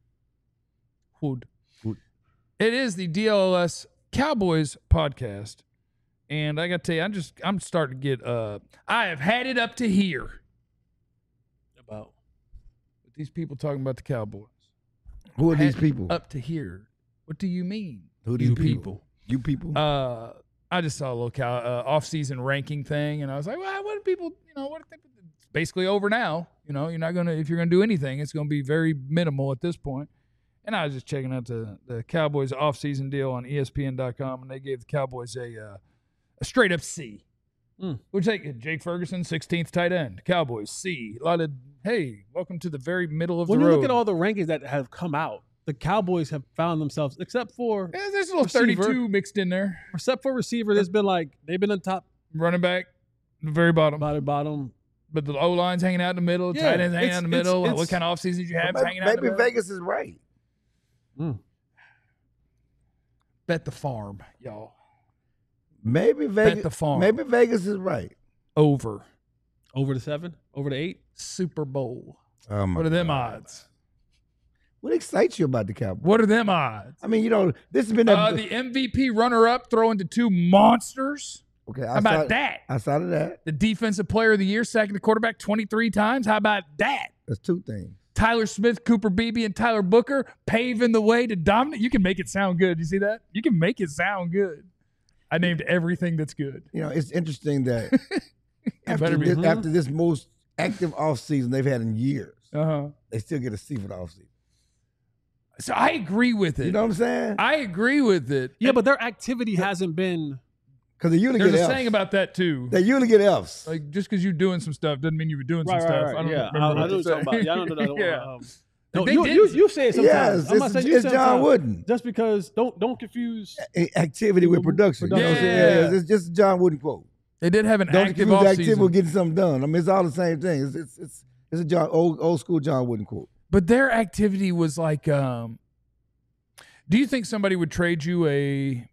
Wood. Wood. It is the D L L S Cowboys podcast. And I got to tell you, I'm just, I'm starting to get, uh, I have had it up to here. About With these people talking about the Cowboys. Who are Had these people? Up to here. What do you mean? Who are you these people? You people? Uh, I just saw a little cow, uh, off-season ranking thing, and I was like, well, what do people, you know, what? They, it's basically over now. You know, you're not going to, if you're going to do anything, it's going to be very minimal at this point. And I was just checking out the, the Cowboys off-season deal on E S P N dot com, and they gave the Cowboys a, uh, a straight-up C. Mm. Which take Jake Ferguson, sixteenth tight end. Cowboys, C. A lot of, hey, welcome to the very middle of when the you road. look at all the rankings that have come out, the Cowboys have found themselves, except for Yeah, there's a little receiver. thirty-two mixed in there. except for receiver, there's been like they've been on top, Running back, the very bottom. bottom, bottom. But the O line's hanging out in the middle, Yeah, tight ends hanging it's- out in the it's- middle. it's- what kind of offseason did you have maybe hanging out in the maybe middle? Vegas is right. Mm. Bet the farm, y'all. Maybe Vegas. the farm. Maybe Vegas is right. Over. Over the seven, over the eight. Super Bowl. Oh my What are them God. odds? What excites you about the Cowboys? What are them odds? I mean, you know, this has been a, Uh, the M V P runner-up throwing to two monsters. okay. How about outside, that? Outside of that, The defensive player of the year, sacking the quarterback twenty-three times. How about that? there's two things. Tyler Smith, Cooper Beebe, and Tyler Booker paving the way to dominate. You can make it sound good. You see that? You can make it sound good. I named everything that's good. You know, it's interesting that after better be. this, Mhm. after this most active offseason they've had in years, Uh-huh. they still get a C for the offseason. So I agree with it. You know what I'm saying? I agree with it. Yeah, but their activity hasn't been. Because they usually There's get a Fs. saying about that too. They usually get Fs. Like just because you're doing some stuff doesn't mean you were doing Right, some right, stuff. right. I don't Yeah, remember I, I what know to what you're talking say. about. Yeah, I don't know. I don't, Yeah. um, no, They you, did- you, you say it sometimes. Yes, I'm not it's, saying you it's say it John sometimes. Wooden. Just because don't don't confuse. A- Activity with production. You know what I'm saying? Yeah. Yeah, it's just a John Wooden quote. They did have an Don't active confuse activity offseason. with getting something done. I mean, it's all the same thing. It's it's it's, it's a John old old school John Wooden quote. But their activity was like, um, do you think somebody would trade you a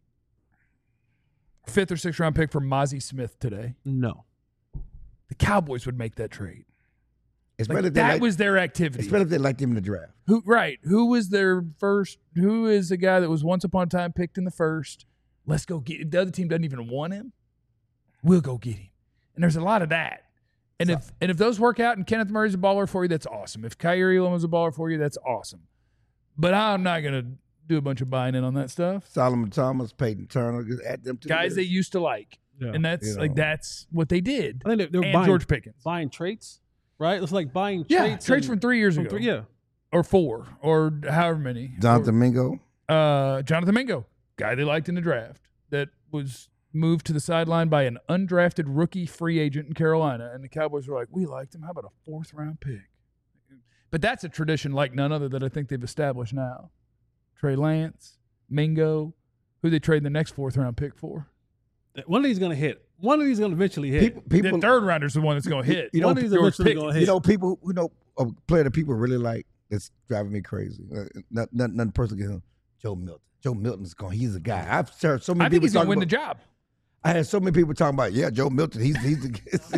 fifth or sixth round pick for Mozzie Smith today? No. The Cowboys would make that trade. It's Like, better if they that like, was their activity. it's better if they liked him in the draft. Who right? Who was their first? Who is the guy that was once upon a time picked in the first? Let's go get. The other team doesn't even want him. We'll go get him. And there's a lot of that. And if and if those work out, and Kenneth Murray's a baller for you, that's awesome. If Kyrie Elam is a baller for you, that's awesome. But I'm not gonna do a bunch of buying in on that stuff. Solomon Thomas, Peyton Turner, just add them to the Guys list. they used to like, Yeah. and that's You like know. that's what they did. I think they're, they're And buying George Pickens. buying traits, right? It's like buying Yeah, traits. trades and- from three years from ago, three- yeah. or four, or however many. Jonathan Mingo. Uh, Jonathan Mingo, guy they liked in the draft, that was moved to the sideline by an undrafted rookie free agent in Carolina, and the Cowboys were like, "We liked him. How about a fourth round pick?" But that's a tradition like none other that I think they've established now. Trey Lance, Mingo, who they trade the next fourth round pick for. One of these is going to hit. One of these is going to eventually hit. People, people, the third rounder's the one that's going to hit. You know, One of these is eventually going to hit. You know, people who know a player that people really like that's driving me crazy. Uh, not, not, nothing personal against him. Joe Milton. Joe Milton's going. He's a guy. I've heard so many I think people he's going to win about, the job. I had so many people talking about, yeah, Joe Milton. He's he's the.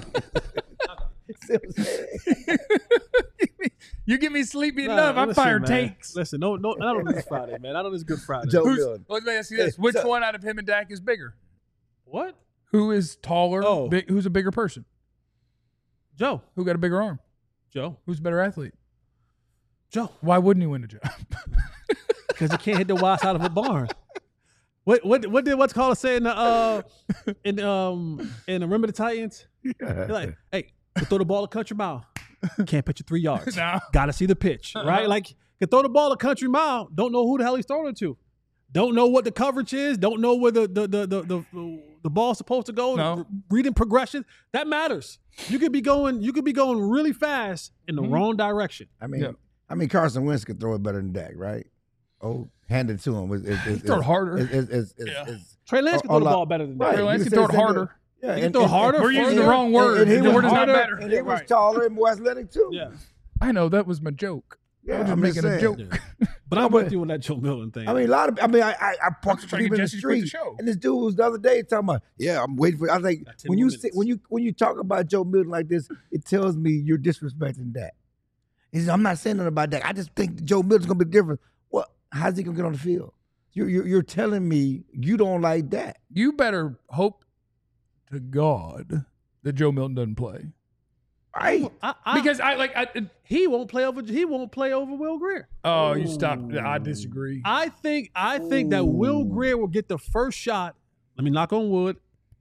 You get me sleepy Nah, enough, I listen, fire man. takes. Listen, no, no, not on this Friday, man. Not on this Good Friday. Joe Who's, Milton. let me ask you this: Hey, which so- one out of him and Dak is bigger? What? Who is taller? Oh. Big, who's a bigger person? Joe. Who got a bigger arm? Joe. Who's a better athlete? Joe. Why wouldn't he win the job? Because he can't hit the wide side of a barn. What what what did what's called say in the uh in um in the Remember the Titans? Yeah. They're like, hey, you throw the ball a country mile. Can't pitch it three yards. No. Gotta see the pitch. Right? Like can throw the ball a country mile, don't know who the hell he's throwing it to. Don't know what the coverage is, don't know where the the the the, the, the ball's supposed to go. No. Reading progression. That matters. You could be going you could be going really fast in the Mhm. wrong direction. I mean, Yeah. I mean, Carson Wentz could throw it better than Dak, right? Oh, hand it to him. It's, it's, it's, throw it harder. It's, it's, it's, it's, Yeah. it's, Trey Lance can Oh, throw the oh, ball better than that. right. Trey Lance You can throw it say the same harder. yeah, He can throw harder, We're using the further, wrong word. And, and he The was word is not harder, better. and he was Right. taller and more athletic too. Yeah. I know that was my joke. Yeah, I was just I'm making just a saying. joke. Yeah. But No, I'm but- with you on that Joe Milton thing. I mean, a lot of. I mean, I I, I parked just trying to people get in the Jesse to quit the street, show. and this dude was the other day talking about, yeah, I'm waiting for. I think Got ten when more you say, minutes. when you when you talk about Joe Milton like this, it tells me you're disrespecting that. He says, I'm not saying nothing about that. I just think Joe Milton's gonna be different. Well, how's he gonna get on the field? You're you're, you're telling me you don't like that. You better hope to God that Joe Milton doesn't play. Right. I, I, Because I like I he won't play over. He won't play over Will Greer. oh, you stopped. I disagree. I think. I think that Will Greer will get the first shot. Let me knock on wood.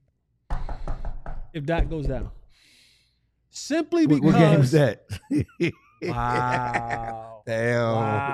If that goes down, simply What, because. what game is that? Wow. Damn.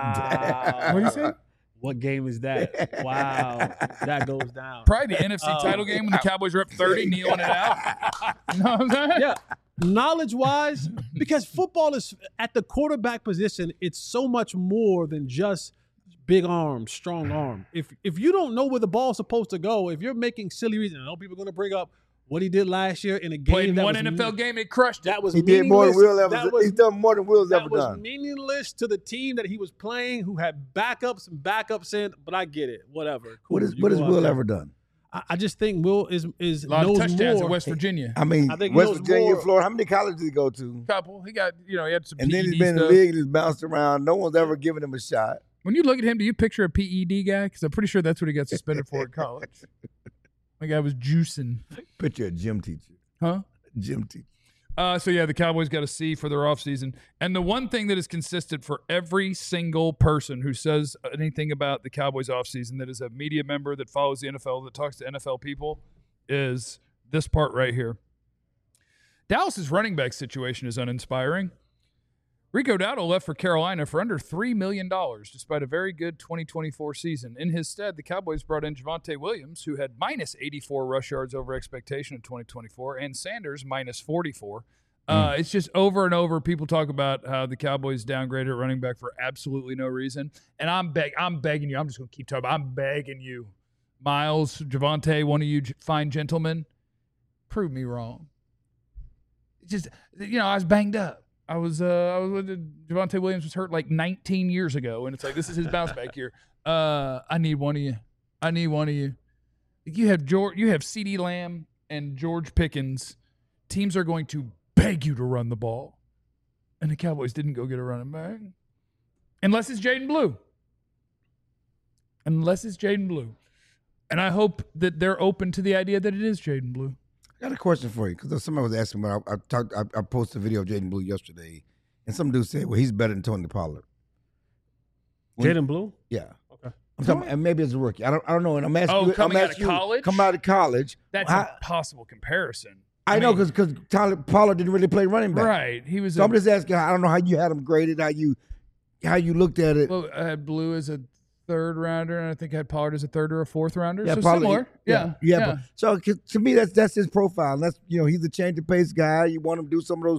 Wow. What do you say? What game is that? Wow. That goes down. Probably the N F C Oh. title game when the Cowboys were up thirty, kneeling it out. You know what I'm saying? Yeah. Knowledge wise, because football is at the quarterback position, it's so much more than just big arm, strong arm. If if you don't know where the ball's supposed to go, if you're making silly reasons, I know people are going to bring up what he did last year in a game Played in that one was N F L me- game and it crushed it. that was He did more than meaningless. Will ever. That was, He's done more than Will's that ever was done. meaningless to the team that he was playing, who had backups and backups in. But I get it. Whatever. Cool. What is You what go has out Will there. ever done? I, I just think Will is is A lot knows of touchdowns more. at West Virginia. I mean, I think he West knows Virginia, more. Florida. How many colleges did he go to? Couple. He got, you know, he had some And P E D then he's been in the stuff. league and he's bounced around. No one's ever given him a shot. When you look at him, do you picture a P E D guy? Because I'm pretty sure that's what he got suspended for at college. The guy was juicing. Picture a gym teacher. Huh? Gym teacher. Uh, so, yeah, the Cowboys got a C for their offseason. And the one thing that is consistent for every single person who says anything about the Cowboys offseason that is a media member that follows the N F L, that talks to N F L people, is this part right here. Dallas's running back situation is uninspiring. Rico Dowdle left for Carolina for under three million dollars, despite a very good twenty twenty-four season. In his stead, the Cowboys brought in Javonte Williams, who had minus eighty-four rush yards over expectation in twenty twenty-four, and Sanders minus forty-four. Uh, it's just over and over. People talk about how the Cowboys downgraded at running back for absolutely no reason. And I'm beg- I'm begging you. I'm just going to keep talking. I'm begging you. Miles, Javonte, one of you g- fine gentlemen, prove me wrong. It's just, you know, I was banged up. I was, uh, I was with Javonte Williams was hurt like nineteen years ago, and it's like this is his bounce back year. Uh, I need one of you. I need one of you. You have George, you have CeeDee Lamb and George Pickens. Teams are going to beg you to run the ball, and the Cowboys didn't go get a running back, unless it's Jaden Blue. Unless it's Jaden Blue, and I hope that they're open to the idea that it is Jaden Blue. I got a question for you because somebody was asking me. I, I talked. I, I posted a video of Jaden Blue yesterday, and some dude said, "Well, he's better than Tony Pollard." When- Jaden Blue. Yeah. Okay. I'm talking, and maybe as a rookie. I don't. I don't know. And I'm asking. Oh, you, coming I'm out of asking you, college? Come out of college. That's How- a possible comparison. I, I know mean- because because Tyler Pollard didn't really play running back. Right, he was. So a, I'm just asking. I don't know how you had him graded. How you how you looked at it. Well, I had Blue as a third rounder, and I think I had Pollard as a third or a fourth rounder. Yeah, so Pollard- similar. Yeah, yeah. yeah. But, so 'cause to me, that's that's his profile. That's you know he's a change of pace guy. You want him to do some of those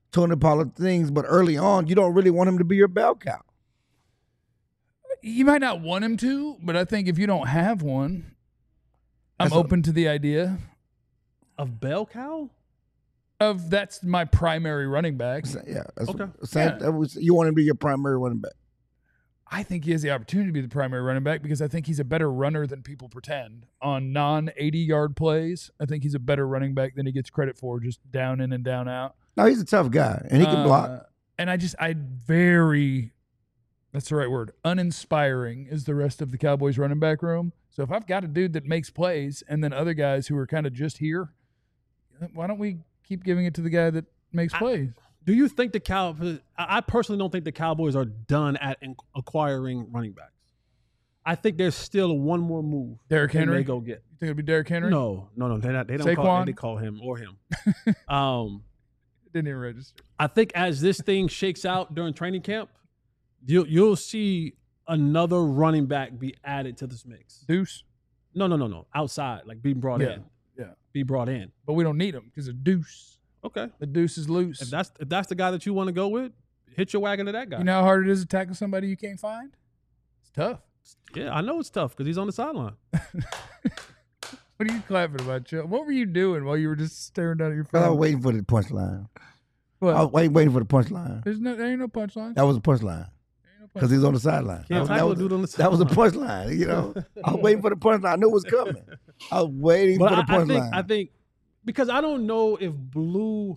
Tony Pollard things, but early on, you don't really want him to be your bell cow. You might not want him to, but I think if you don't have one, I'm That's a- open to the idea Of bell cow? of that's my primary running back. So, yeah, that's Okay. what- same, Yeah. that was, you want him to be your primary running back. I think he has the opportunity to be the primary running back because I think he's a better runner than people pretend on non eighty yard plays. I think he's a better running back than he gets credit for, just down in and down out. No, he's a tough guy, and he can Uh, block. And I just, I very, that's the right word, uninspiring is the rest of the Cowboys running back room. So if I've got a dude that makes plays and then other guys who are kind of just here, why don't we keep giving it to the guy that makes I- plays? Do you think the Cow? I I personally don't think the Cowboys are done at in- acquiring running backs. I think there's still one more move. Derrick they Henry? may go get. You think it'd be Derrick Henry? No, no, no. They not. They don't call. Saquon? They call him or him. um, Didn't even register. I think as this thing shakes out during training camp, you'll you'll see another running back be added to this mix. Deuce. No, no, no, no. Outside, like being brought Yeah, in. yeah. Be brought in. But we don't need him because of Deuce. Okay. The Deuce is loose. If that's if that's the guy that you want to go with, hit your wagon to that guy. You know how hard it is to tackle somebody you can't find? It's tough. Yeah, I know it's tough because he's on the sideline. What are you clapping about, Joe? What were you doing while you were just staring down at your Because I was phone? waiting for the punchline. What? I was waiting, waiting for the punchline. There's no, there ain't no punchline. That was a punchline because he's on the sideline. Can't That was, that, tackle a was, dude on the that was a sideline. punchline. You know, I was waiting for the punchline. I knew it was coming. I was waiting But for I, the I punchline. think I think because I don't know if Blue.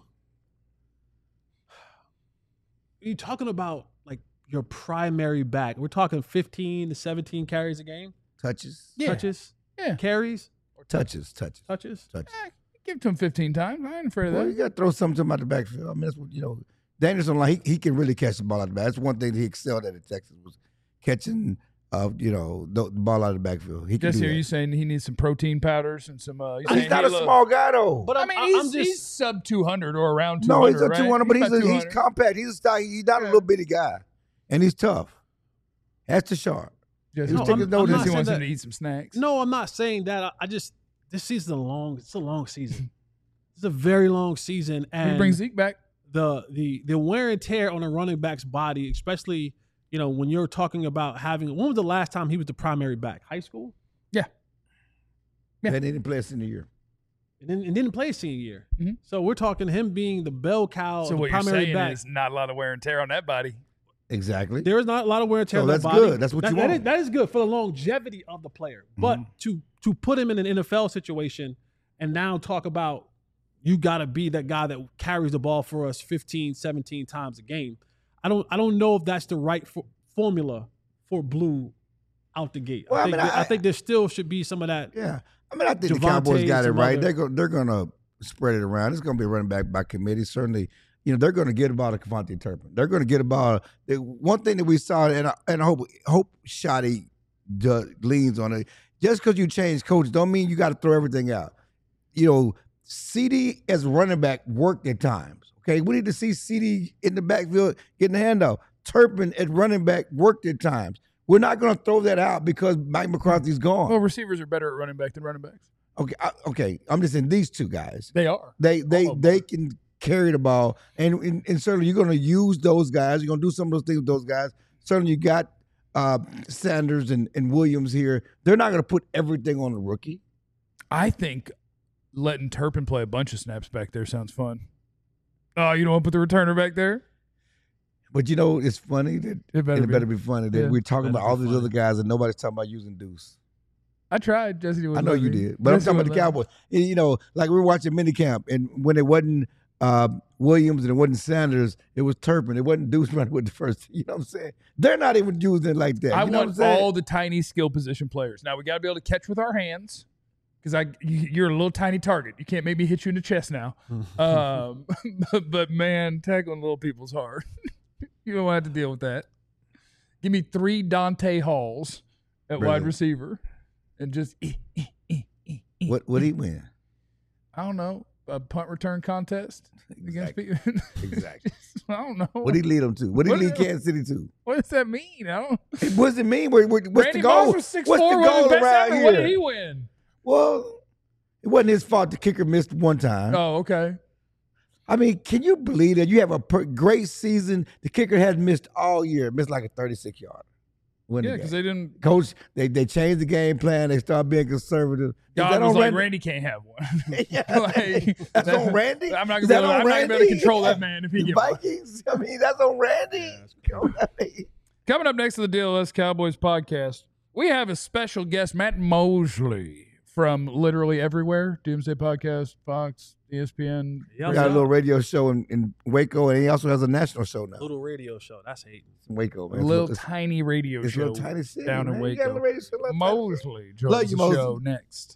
You're talking about like your primary back. We're talking fifteen to seventeen carries a game, touches, Yeah. touches, Yeah. carries, touches, touches, touches. touches. Eh, give it to him fifteen times. I ain't afraid of Well, that. you got to throw something to him out the backfield. I mean, that's what you know. Danielson, like he, he can really catch the ball out the back. That's one thing that he excelled at at Texas was catching, uh, you know, the, the ball out of the backfield. He can Jesse, do are that. you saying he needs some protein powders and some? Uh, you He's saying, not hey, a look, small guy though. But I I'm, mean, I'm he's, just he's sub two hundred or around two hundred. no, he's a right? two hundred, but he's about a, he's two hundred. compact. He's a style. He's not a Yeah. little bitty guy, and he's tough. That's the sharp. Jesse, No, take I'm- his I'm notice. not He saying wants him that- to eat some snacks. no. I'm not saying that. I, I just this season's a long. It's a long season. It's a very long season, we and bring Zeke back. the the the wear and tear on a running back's body, especially you know when you're talking about having. When was the last time he was the primary back? High school, Yeah. Yeah. And he didn't play a senior year. and then and didn't play senior year. Mhm. So we're talking him being the bell cow, So of the what you're primary saying back. is not a lot of wear and tear on that body. Exactly. There is not a lot of wear and tear So on that that's body. good. That's what that, you that want. is- that is good for the longevity of the player. But Mhm. to to put him in an N F L situation and now talk about you got to be that guy that carries the ball for us fifteen, seventeen times a game. I don't I don't know if that's the right for, formula for Blue out the gate. Well, I I, think mean, there- I, I- think there still should be some of that. Yeah, I mean, I think the Javonte Cowboys got it some right. other- They're going. They're going to spread it around. It's going to be running back by committee. Certainly, you know, they're going to get about a Kevontae Turpin. They're going to get about the one thing that we saw, and I, and I hope hope Shotty does, leans on it. Just because you change coach, don't mean you got to throw everything out. You know, C D as running back worked at times. Okay, we need to see C D in the backfield getting the handoff. Turpin at running back worked at times. We're not going to throw that out because Mike McCarthy's gone. Well, receivers are better at running back than running backs. Okay, I, okay. I'm just saying these two guys. They are. They they All of they them. can carry the ball, and, and and certainly you're going to use those guys. You're going to do some of those things with those guys. Certainly you got uh, Sanders and, and Williams here. They're not going to put everything on the rookie. I think letting Turpin play a bunch of snaps back there sounds fun. Oh, you don't want to put the returner back there? But you know, it's funny that It better and it be. better be funny that Yeah. we're talking Better about all be these funny. other guys and nobody's talking about using Deuce. I tried. Jesse was I know you lucky. did, but I'm Jesse talking about was the lucky. Cowboys. And, you know, like we were watching minicamp, and when it wasn't uh, Williams and it wasn't Sanders, it was Turpin. It wasn't Deuce running with the first. You know what I'm saying? They're not even using it like that. I you know what I'm want saying? all the tiny skill position players. Now we got to be able to catch with our hands because I you- you're a little tiny target. You can't make me hit you in the chest now. um, but, but man, tackling little people's hard. You don't have to deal with that. Give me three Dante Halls at wide Brilliant. receiver, and just eh, eh, eh, eh, eh. What would he win? I don't know, a punt return contest against Exactly. people. Exactly. I don't know. What did he lead them to? What did he What- lead Kansas City to? What does that mean? I don't. What does it mean? What, what- what's Randy the goal? Moss was six What's four, the goal best around ever. here? What did he win? Well, it wasn't his fault. The kicker missed one time. Oh, okay. I mean, can you believe that you have a per- great season? The kicker has missed all year, missed like a thirty-six yard. Yeah, because they didn't. Coach, they they changed the game plan. They started being conservative. Is God that was on like, Randy? Randy can't have one. Yeah. Like, That's that- on Randy. I'm not Is gonna that be able, on I'm not gonna be able to Randy? control that man if he The gets one. Vikings. I mean, that's on Randy. Coming up next to the D L S Cowboys podcast, we have a special guest, Matt Mosley from literally everywhere. Doomsday Podcast, Fox, E S P N. Yeah, We got a little radio show in, in Waco, and he also has a national show now. little radio show. That's hating. In Waco, man. A little it's, tiny radio it's a show little tiny city, down in man. You got a Waco. little radio show, little tiny city. Mosley joins Love you, the Mosley. show next.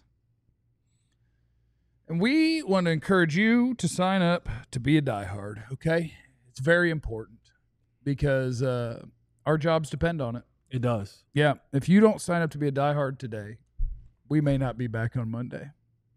And we want to encourage you to sign up to be a diehard, okay? It's very important because uh, our jobs depend on it. It does. Yeah, if you don't sign up to be a diehard today, we may not be back on Monday.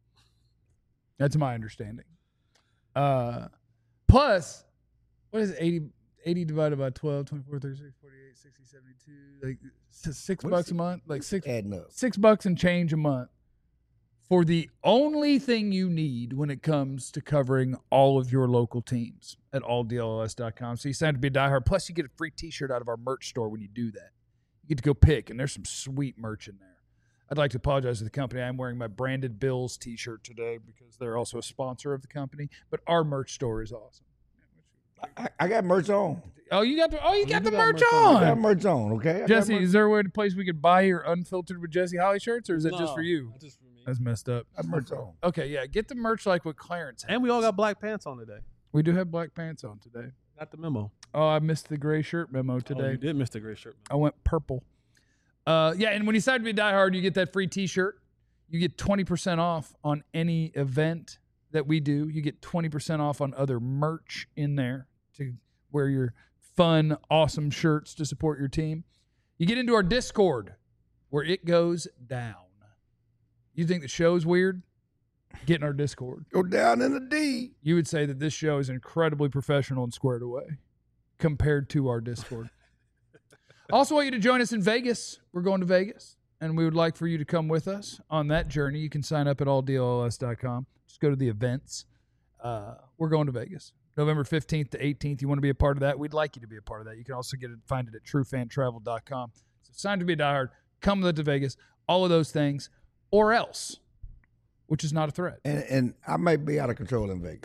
That's my understanding. Uh, plus, what is it, eighty, eighty divided by twelve, twenty-four, thirty-six, forty-eight, sixty, seventy-two, like s- six What bucks is a it? month, like six, Adding up. six bucks and change a month for the only thing you need when it comes to covering all of your local teams at all D L S dot com. So you sign up to be a diehard. Plus, you get a free T-shirt out of our merch store when you do that. You get to go pick, and there's some sweet merch in there. I'd like to apologize to the company. I'm wearing my Branded Bills T-shirt today because they're also a sponsor of the company. But our merch store is awesome. I, I got merch on. Oh, you got the oh, you got do the got merch merch on. I got on. merch on, okay? I got Jesse, merch- is there a way, a place we could buy your unfiltered with Jesse Holly shirts, or is that just No, for you? that's just for me. That's messed up. I got merch on. Okay, yeah, get the merch like what Clarence has. And we all got black pants on today. We do have black pants on today. Got the memo. Oh, I missed the gray shirt memo Oh, today. you did miss the gray shirt. I went purple. Uh, yeah, and when you decide to be a diehard, you get that free T-shirt. You get twenty percent off on any event that we do. You get twenty percent off on other merch in there to wear your fun, awesome shirts to support your team. You get into our Discord where it goes down. You think the show's weird? Get in our Discord. Go down in the D. You would say that this show is incredibly professional and squared away compared to our Discord. Also want you to join us in Vegas. We're going to Vegas, and we would like for you to come with us on that journey. You can sign up at all D L S dot com. Just go to the events. Uh, we're going to Vegas. November fifteenth to eighteenth. You want to be a part of that? We'd like you to be a part of that. You can also get it, find it at true fan travel dot com. So sign to be a diehard. Come with it to Vegas. All of those things, or else, which is not a threat. And, and I might be out of control in Vegas.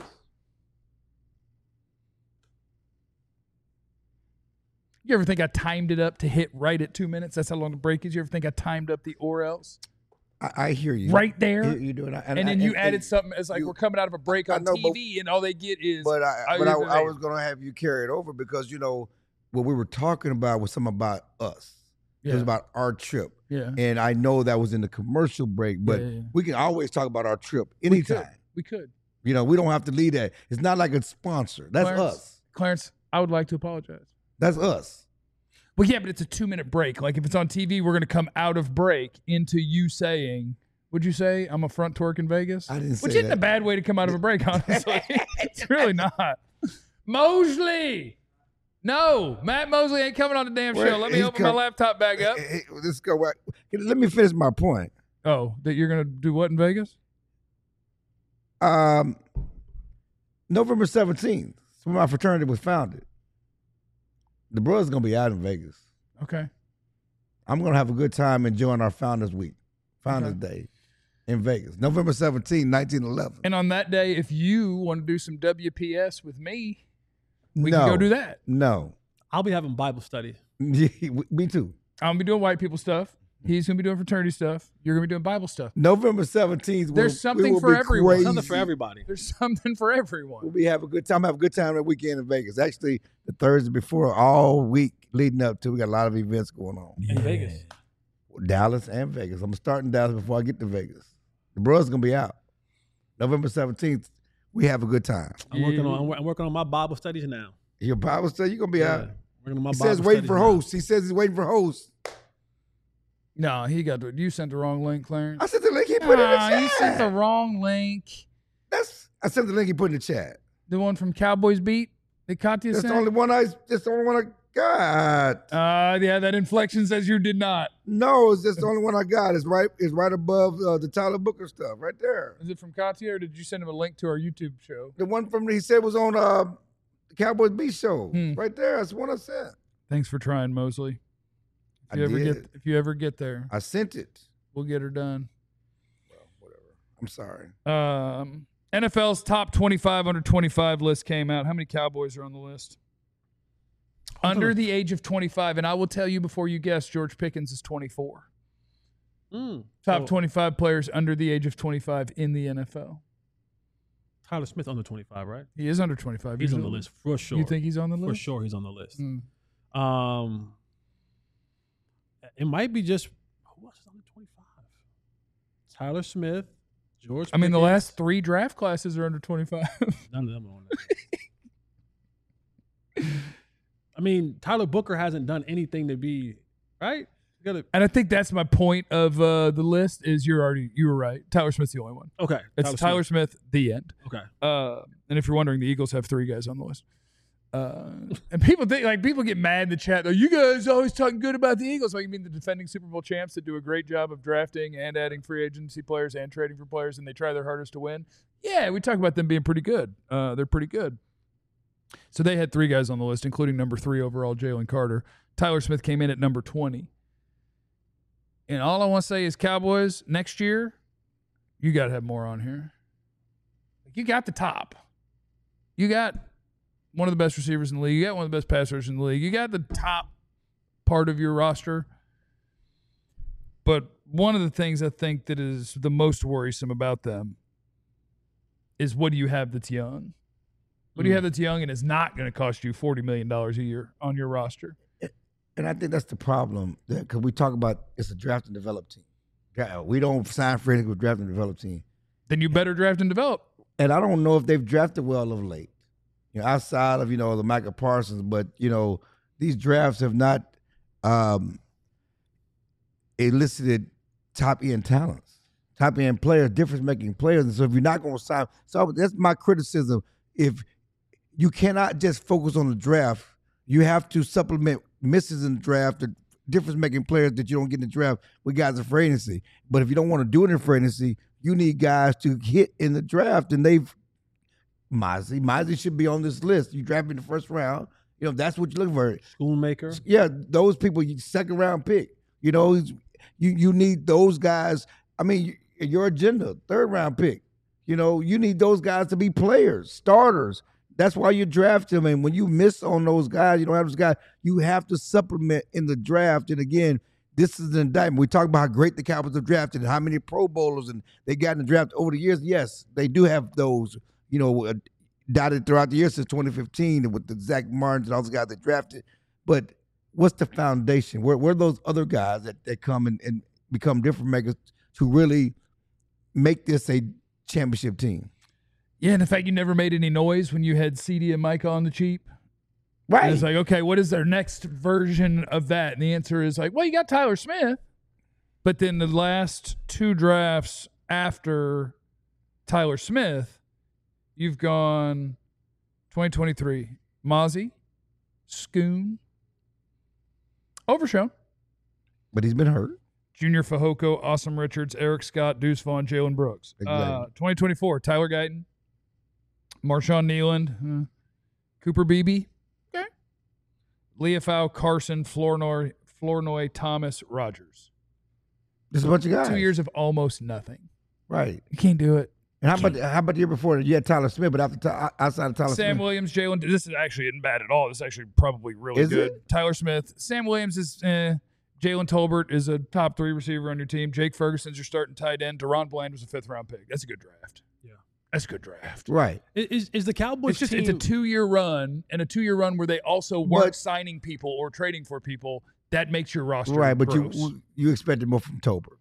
You ever think I timed it up to hit right at two minutes? That's how long the break is. You ever think I timed up the or else? I, I hear you. Right there? You, you do it. And, then you added something as like you- we're coming out of a break I on know, T but- V, and all they get is. But I, I but I, even I made- was going to have you carry it over because, you know, what we were talking about was something about us. It yeah, was about our trip. yeah. And I know that was in the commercial break, but Yeah, yeah, yeah. we can always talk about our trip We could. anytime. We could. You know, we don't have to lead that. It's not like a sponsor. That's Clarence, us. Clarence, I would like to apologize. That's us. Well, yeah, but it's a two minute break. Like if it's on T V, we're going to come out of break into you saying, would you say I'm a front twerk in Vegas? I didn't say Which isn't that. a bad way to come out of a break, honestly. It's really not. Mosley. No, Matt Mosley ain't coming on the damn Where- show. Let me he's open my com- laptop back up. Hey, hey, let's go. Back. Let me finish my point. Oh, that you're going to do what in Vegas? Um, November seventeenth, when my fraternity was founded. The brother's going to be out in Vegas. Okay. I'm going to have a good time enjoying our Founders Week, Founders Day in Vegas. November seventeenth, nineteen eleven. And on that day, if you want to do some W P S with me, we no, can go do that. No. I'll be having Bible study. Me too. I'm going to be doing white people stuff. He's going to be doing fraternity stuff. You're going to be doing Bible stuff. November seventeenth. There's will, something we will for be everyone. crazy. Something for everybody. There's something for We'll everyone. be have a good time. Have a good time that weekend in Vegas. Actually, the Thursday before, all week leading up to, we got a lot of events going on. In Vegas. Dallas and Vegas. I'm starting Dallas before I get to Vegas. The brother's gonna be out. November seventeenth. We have a good time. I'm working on I'm working on my Bible studies now. Your Bible study, you're gonna be out. Working on my He Bible says waiting studies for now. hosts. He says he's waiting for hosts. No, he got the, you sent the wrong link, Clarence. I sent the link he put in the Nah, chat. you sent the wrong link. That's I sent the link he put in the chat. The one from Cowboys Beat that Katya That's sent. the only one I. That's the only one God. Uh, yeah, that inflection says you did not. No, it's just the only one I got. It's right It's right above uh, the Tyler Booker stuff, right there. Is it from Katia, or did you send him a link to our YouTube show? The one from he said was on uh, the Cowboys Beat show. Hmm. Right there. That's the one I sent. Thanks for trying, Mosley. If I you ever did. get if you ever get there, I sent it. we'll get her done. Well, whatever. I'm sorry. Um, N F L's top twenty-five under twenty-five list came out. How many Cowboys are on the list? Under the age of twenty-five, and I will tell you before you guess, George Pickens is twenty-four. Mm. Top So, twenty-five players under the age of twenty-five in the N F L. Tyler Smith under twenty-five, right? He is under twenty-five. He's on the list for sure. You think he's on the For list? sure he's on the list. Mm. Um, it might be just who else is under twenty-five? Tyler Smith, George. I mean, the Pickens. last three draft classes are under twenty-five. None of them are on there. I mean, Tyler Booker hasn't done anything to be right. You gotta, And I think that's my point of uh, the list is you're already you were right. Tyler Smith's the only one. okay, It's Tyler, Smith. Smith. The end. Okay, Uh, and if you're wondering, the Eagles have three guys on the list. Uh, and people think like people get mad in the chat though. You guys always talking good about the Eagles. Like you mean the defending Super Bowl champs that do a great job of drafting and adding free agency players and trading for players, and they try their hardest to win. Yeah, we talk about them being pretty good. Uh, they're pretty good. So they had three guys on the list, including number three overall, Jalen Carter. Tyler Smith came in at number twenty. And all I want to say is, Cowboys, next year, you got to have more on here. You got the top. You got one of the best receivers in the league. You got one of the best passers in the league. You got the top part of your roster. But one of the things I think that is the most worrisome about them is what do you have that's young? What do you have that's young and is not going to cost you forty million dollars a year on your roster? And I think that's the problem because we talk about it's a draft and develop team. Yeah, we don't sign for anything with draft and develop team. Then you better draft and develop. And I don't know if they've drafted well of late. You know, outside of, you know, the Micah Parsons, but, you know, these drafts have not um, elicited top-end talents, top-end players, difference-making players. And so if you're not going to sign – so that's my criticism. If you cannot just focus on the draft, you have to supplement misses in the draft, the difference-making players that you don't get in the draft with guys in free agency. But if you don't want to do it in free agency, you need guys to hit in the draft, and they've – Mozzie. Mozzie should be on this list. You draft in the first round. You know, that's what you're looking for. Schoonmaker. Yeah, those people, you second round pick. You know, you you need those guys. I mean, your agenda, third round pick. You know, you need those guys to be players, starters. That's why you draft them. And when you miss on those guys, you don't have those guys, you have to supplement in the draft. And again, this is an indictment. We talk about how great the Cowboys have drafted and how many Pro Bowlers and they got in the draft over the years. Yes, they do have those, you know, uh, dotted throughout the years since twenty fifteen with the Zach Martins and all those guys they drafted. But what's the foundation? Where, where are those other guys that, that come and, and become difference makers to really make this a championship team? Yeah, and the fact you never made any noise when you had C D and Micah on the cheap. Right. And it's like, okay, what is their next version of that? And the answer is like, well, you got Tyler Smith. But then the last two drafts after Tyler Smith, you've gone twenty twenty-three, Mozzie, Schoon, Overshown, But he's been hurt. Junior Fehoko, Awesome Richards, Eric Scott, Deuce Vaughn, Jalen Brooks. Exactly. Uh, twenty twenty-four, Tyler Guyton, Marshawn Nealand, uh, Cooper Beebe, okay, Leofau, Carson, Flournoy, Flournoy, Thomas, Rogers. There's a bunch of guys. Two years of almost nothing. Right. You can't do it. And how about how about the year before? You had Tyler Smith, but after Ty- outside of Tyler Sam Smith, Williams, Jalen. This is actually isn't bad at all. This is actually probably really Is good. it? Tyler Smith, Sam Williams is. Eh. Jalen Tolbert is a top three receiver on your team. Jake Ferguson's your starting tight end. Deron Bland was a fifth round pick. That's a good draft. Yeah. That's a good draft. right? Is is the Cowboys It's just team? it's a two year run and a two year run where they also weren't But- signing people or trading for people. That makes your roster Right, but gross. you you expected more from Tolbert.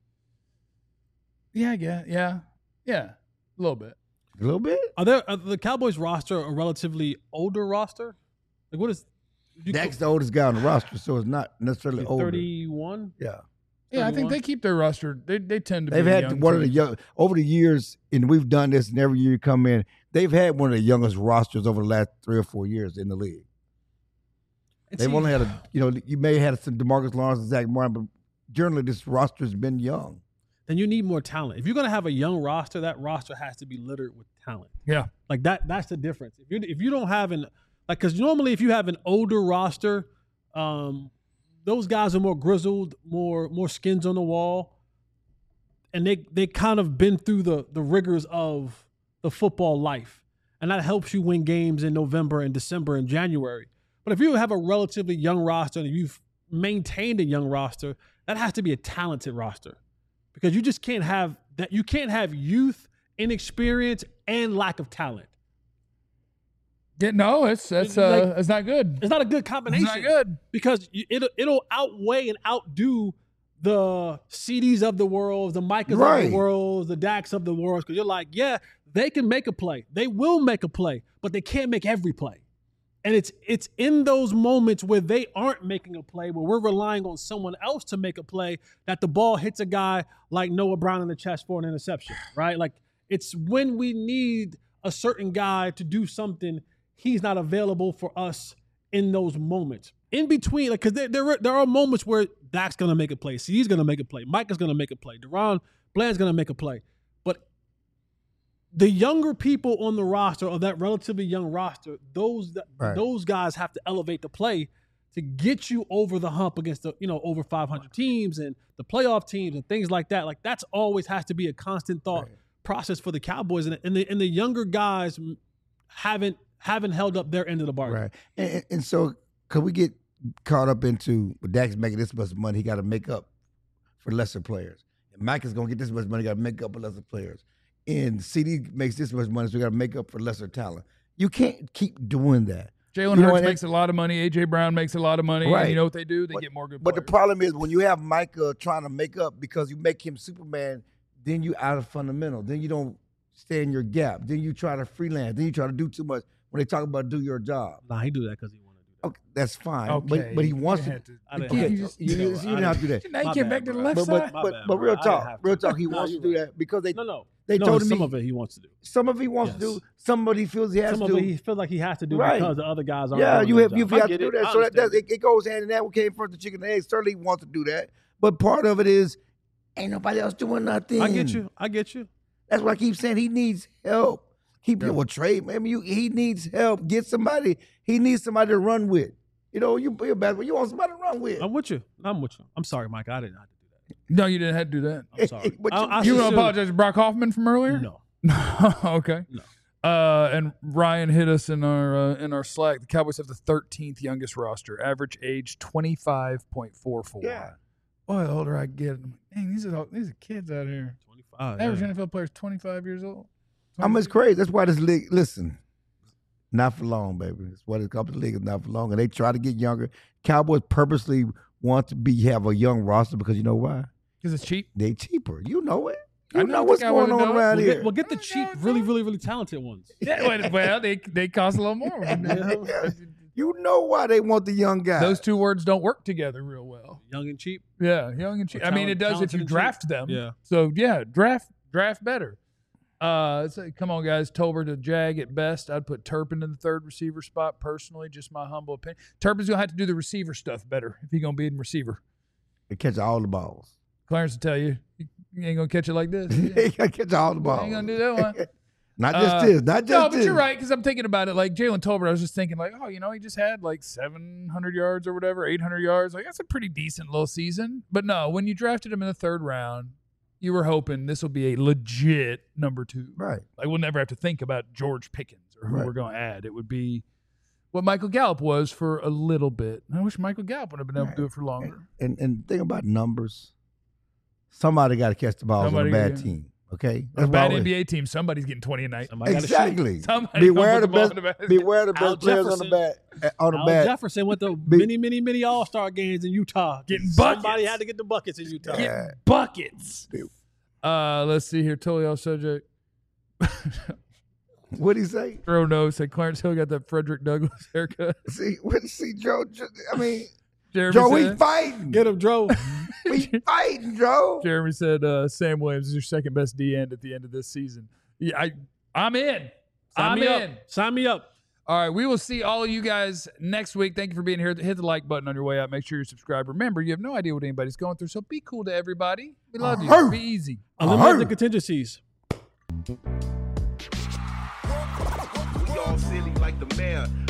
yeah, yeah, yeah, yeah, a little bit. A little bit. Are there are the Cowboys roster a relatively older roster? Like what is? you Dak's the oldest guy on the roster, so it's not necessarily older. thirty-one. Yeah. Yeah, I think thirty-one? they keep their roster. They they tend to. They've be a had young one of the team. young over the years, and we've done this, and every year you come in, they've had one of the youngest rosters over the last three or four years in the league. And They've see- only had a, you know, you may have had some DeMarcus Lawrence and Zach Martin, but generally this roster's been young. then you need more talent. If you're gonna have a young roster, that roster has to be littered with talent. Yeah. Like that. That's the difference. If you if you don't have an like, because normally if you have an older roster, um, those guys are more grizzled, more more skins on the wall, and they they kind of been through the the rigors of the football life, and that helps you win games in November and December and January. But if you have a relatively young roster and you've maintained a young roster, that has to be a talented roster, because you just can't have that. You can't have youth, inexperience, and lack of talent. Yeah, no, it's that's It's uh, like- it's not good. It's not a good It's combination. not good. Because you- it'll it'll outweigh and outdo the C Ds of the world, the Micahs of Right. the world, the Dax of the world. Because you're like, yeah, they can make a play, they will make a play, but they can't make every play. And it's it's in those moments where they aren't making a play, where we're relying on someone else to make a play, that the ball hits a guy like Noah Brown in the chest for an interception, right? Like, it's when we need a certain guy to do something, he's not available for us in those moments. In between, like, because there, there, are, there are moments where Dak's going to make a play, C D's going to make a play, Mike is going to make a play, Deron Bland's going to make a play. But the younger people on the roster, or that relatively young roster, those Right. those guys have to elevate the play to get you over the hump against the, you know, over five hundred teams and the playoff teams and things like that. Like, that's always has to be a constant thought Right. process for the Cowboys, and, and the and the younger guys haven't haven't held up their end of the bargain. Right. And, and- and so could we get caught up into, well, Dak's making this much money, he got to make up for lesser players. And Mike is going to get this much money, got to make up for lesser players. And C D makes this much money, so we got to make up for lesser talent. You can't keep doing that. Jalen You know, Hurts and makes a lot of money. A J Brown makes a lot of money. Right. And you know what they do? They But- get more good But the players. problem is when you have Micah trying to make up because you make him Superman, then you out of fundamental. Then you don't stay in your gap. Then you try to freelance. Then you try to do too much when they talk about do your job. Nah, he do that because he want to do that. Okay, that's fine. Okay, But but he you wants had to. to- I didn't Okay, have you, to. you, You know you what? didn't I have to do that. Now you My get bad, back to the bro. left But side. but My but, bad, but bro. real I didn't talk, have to. real talk. He No, wants to you're do right. that because they No, no. they no, told him some he, of it he wants to do. some of it he wants Yes. to do. Somebody feels he has Some to of it do. he feels like he has to do Right. because the other guys aren't. Yeah, doing you their have you job. I have to get do it. that. I So that does, understand it, it goes hand in hand. What came first, the chicken and egg? Certainly he wants to do that, but part of it is ain't nobody else doing nothing. I get you. I get you. That's why I keep saying he needs help. Keep Yeah. well, trade. I mean, you, he needs help. Get somebody. He needs somebody to run with. You know, you you're bad, but you want somebody to run with. I'm with you. I'm with you. I'm sorry, Mike. I didn't have to do that. No, you didn't have to do that. I'm sorry. But I- you- I You want to sincerely- apologize to Brock Hoffman from earlier? No. Okay. No. Uh, and Ryan hit us in our uh, in our Slack. The Cowboys have the thirteenth youngest roster, average age twenty-five point four four. Yeah. Boy, the older I get, I'm like, dang, these are all- these are kids out here. twenty-five. Average yeah. N F L player is twenty-five years old. I mean, it's crazy. That's why this league. Listen, not for long, baby. It's what it's called. The league is not for long, and they try to get younger. Cowboys purposely want to be have a young roster because you know why? Because it's cheap. They cheaper. You know it. I You know know the what's Cowboys going on know it. around We'll here. get, we'll get the I cheap, know, really, bro. really, really talented ones. Yeah, well, well, they they cost a little more. You know why they want the young guys. Those two words don't work together real well. Young and cheap. Yeah, young and cheap. Or I mean, it talent- does if talented you and cheap. draft them. Yeah. So yeah, draft draft better. Uh, so come on, guys. Tolbert to Jag at best. I'd put Turpin in the third receiver spot personally. Just my humble opinion. Turpin's gonna have to do the receiver stuff better if he's gonna be in receiver. They catch all the balls. Clarence will tell you, you ain't gonna catch it like this. They You gotta catch all the balls. ain't gonna do that one. Not just Uh, this. Not just No, but this. you're right because I'm thinking about it. Like Jalen Tolbert, I was just thinking like, oh, you know, he just had like seven hundred yards or whatever, eight hundred yards. Like that's a pretty decent little season. But no, when you drafted him in the third round, you were hoping this will be a legit number two. Right. Like we'll never have to think about George Pickens or who Right. we're going to add. It would be what Michael Gallup was for a little bit. I wish Michael Gallup would have been able to do it for longer. And and think about numbers. Somebody got to catch the balls Somebody, on a bad yeah. team. Okay, On a why bad we- N B A team, somebody's getting twenty a night. Somebody gotta shoot. Exactly. Somebody Beware gonna the put the ball best. in the basket. Beware the Al best players on the Jefferson. bat. On the Al bat. Jefferson went to Be- many, many, many All Star games in Utah. Getting Somebody buckets. had to get the buckets in Utah. Yeah. Buckets. Uh, let's see here. Totally off subject. What'd he say? Throw no said Clarence Hill got that Frederick Douglass haircut. See, what? See, Joe. Joe- I mean, Jeremy Joe, we said, fighting. Get him, Joe. We fighting, Joe. Jeremy said uh, Sam Williams is your second best D end at the end of this season. Yeah, I I'm in. Sign I'm me in. up. Sign me up. All right, we will see all of you guys next week. Thank you for being here. Hit the like button on your way out. Make sure you're subscribed. Remember, you have no idea what anybody's going through, so be cool to everybody. We love you. Uh-huh. Be easy. Eliminate the contingencies. We all silly like the mayor.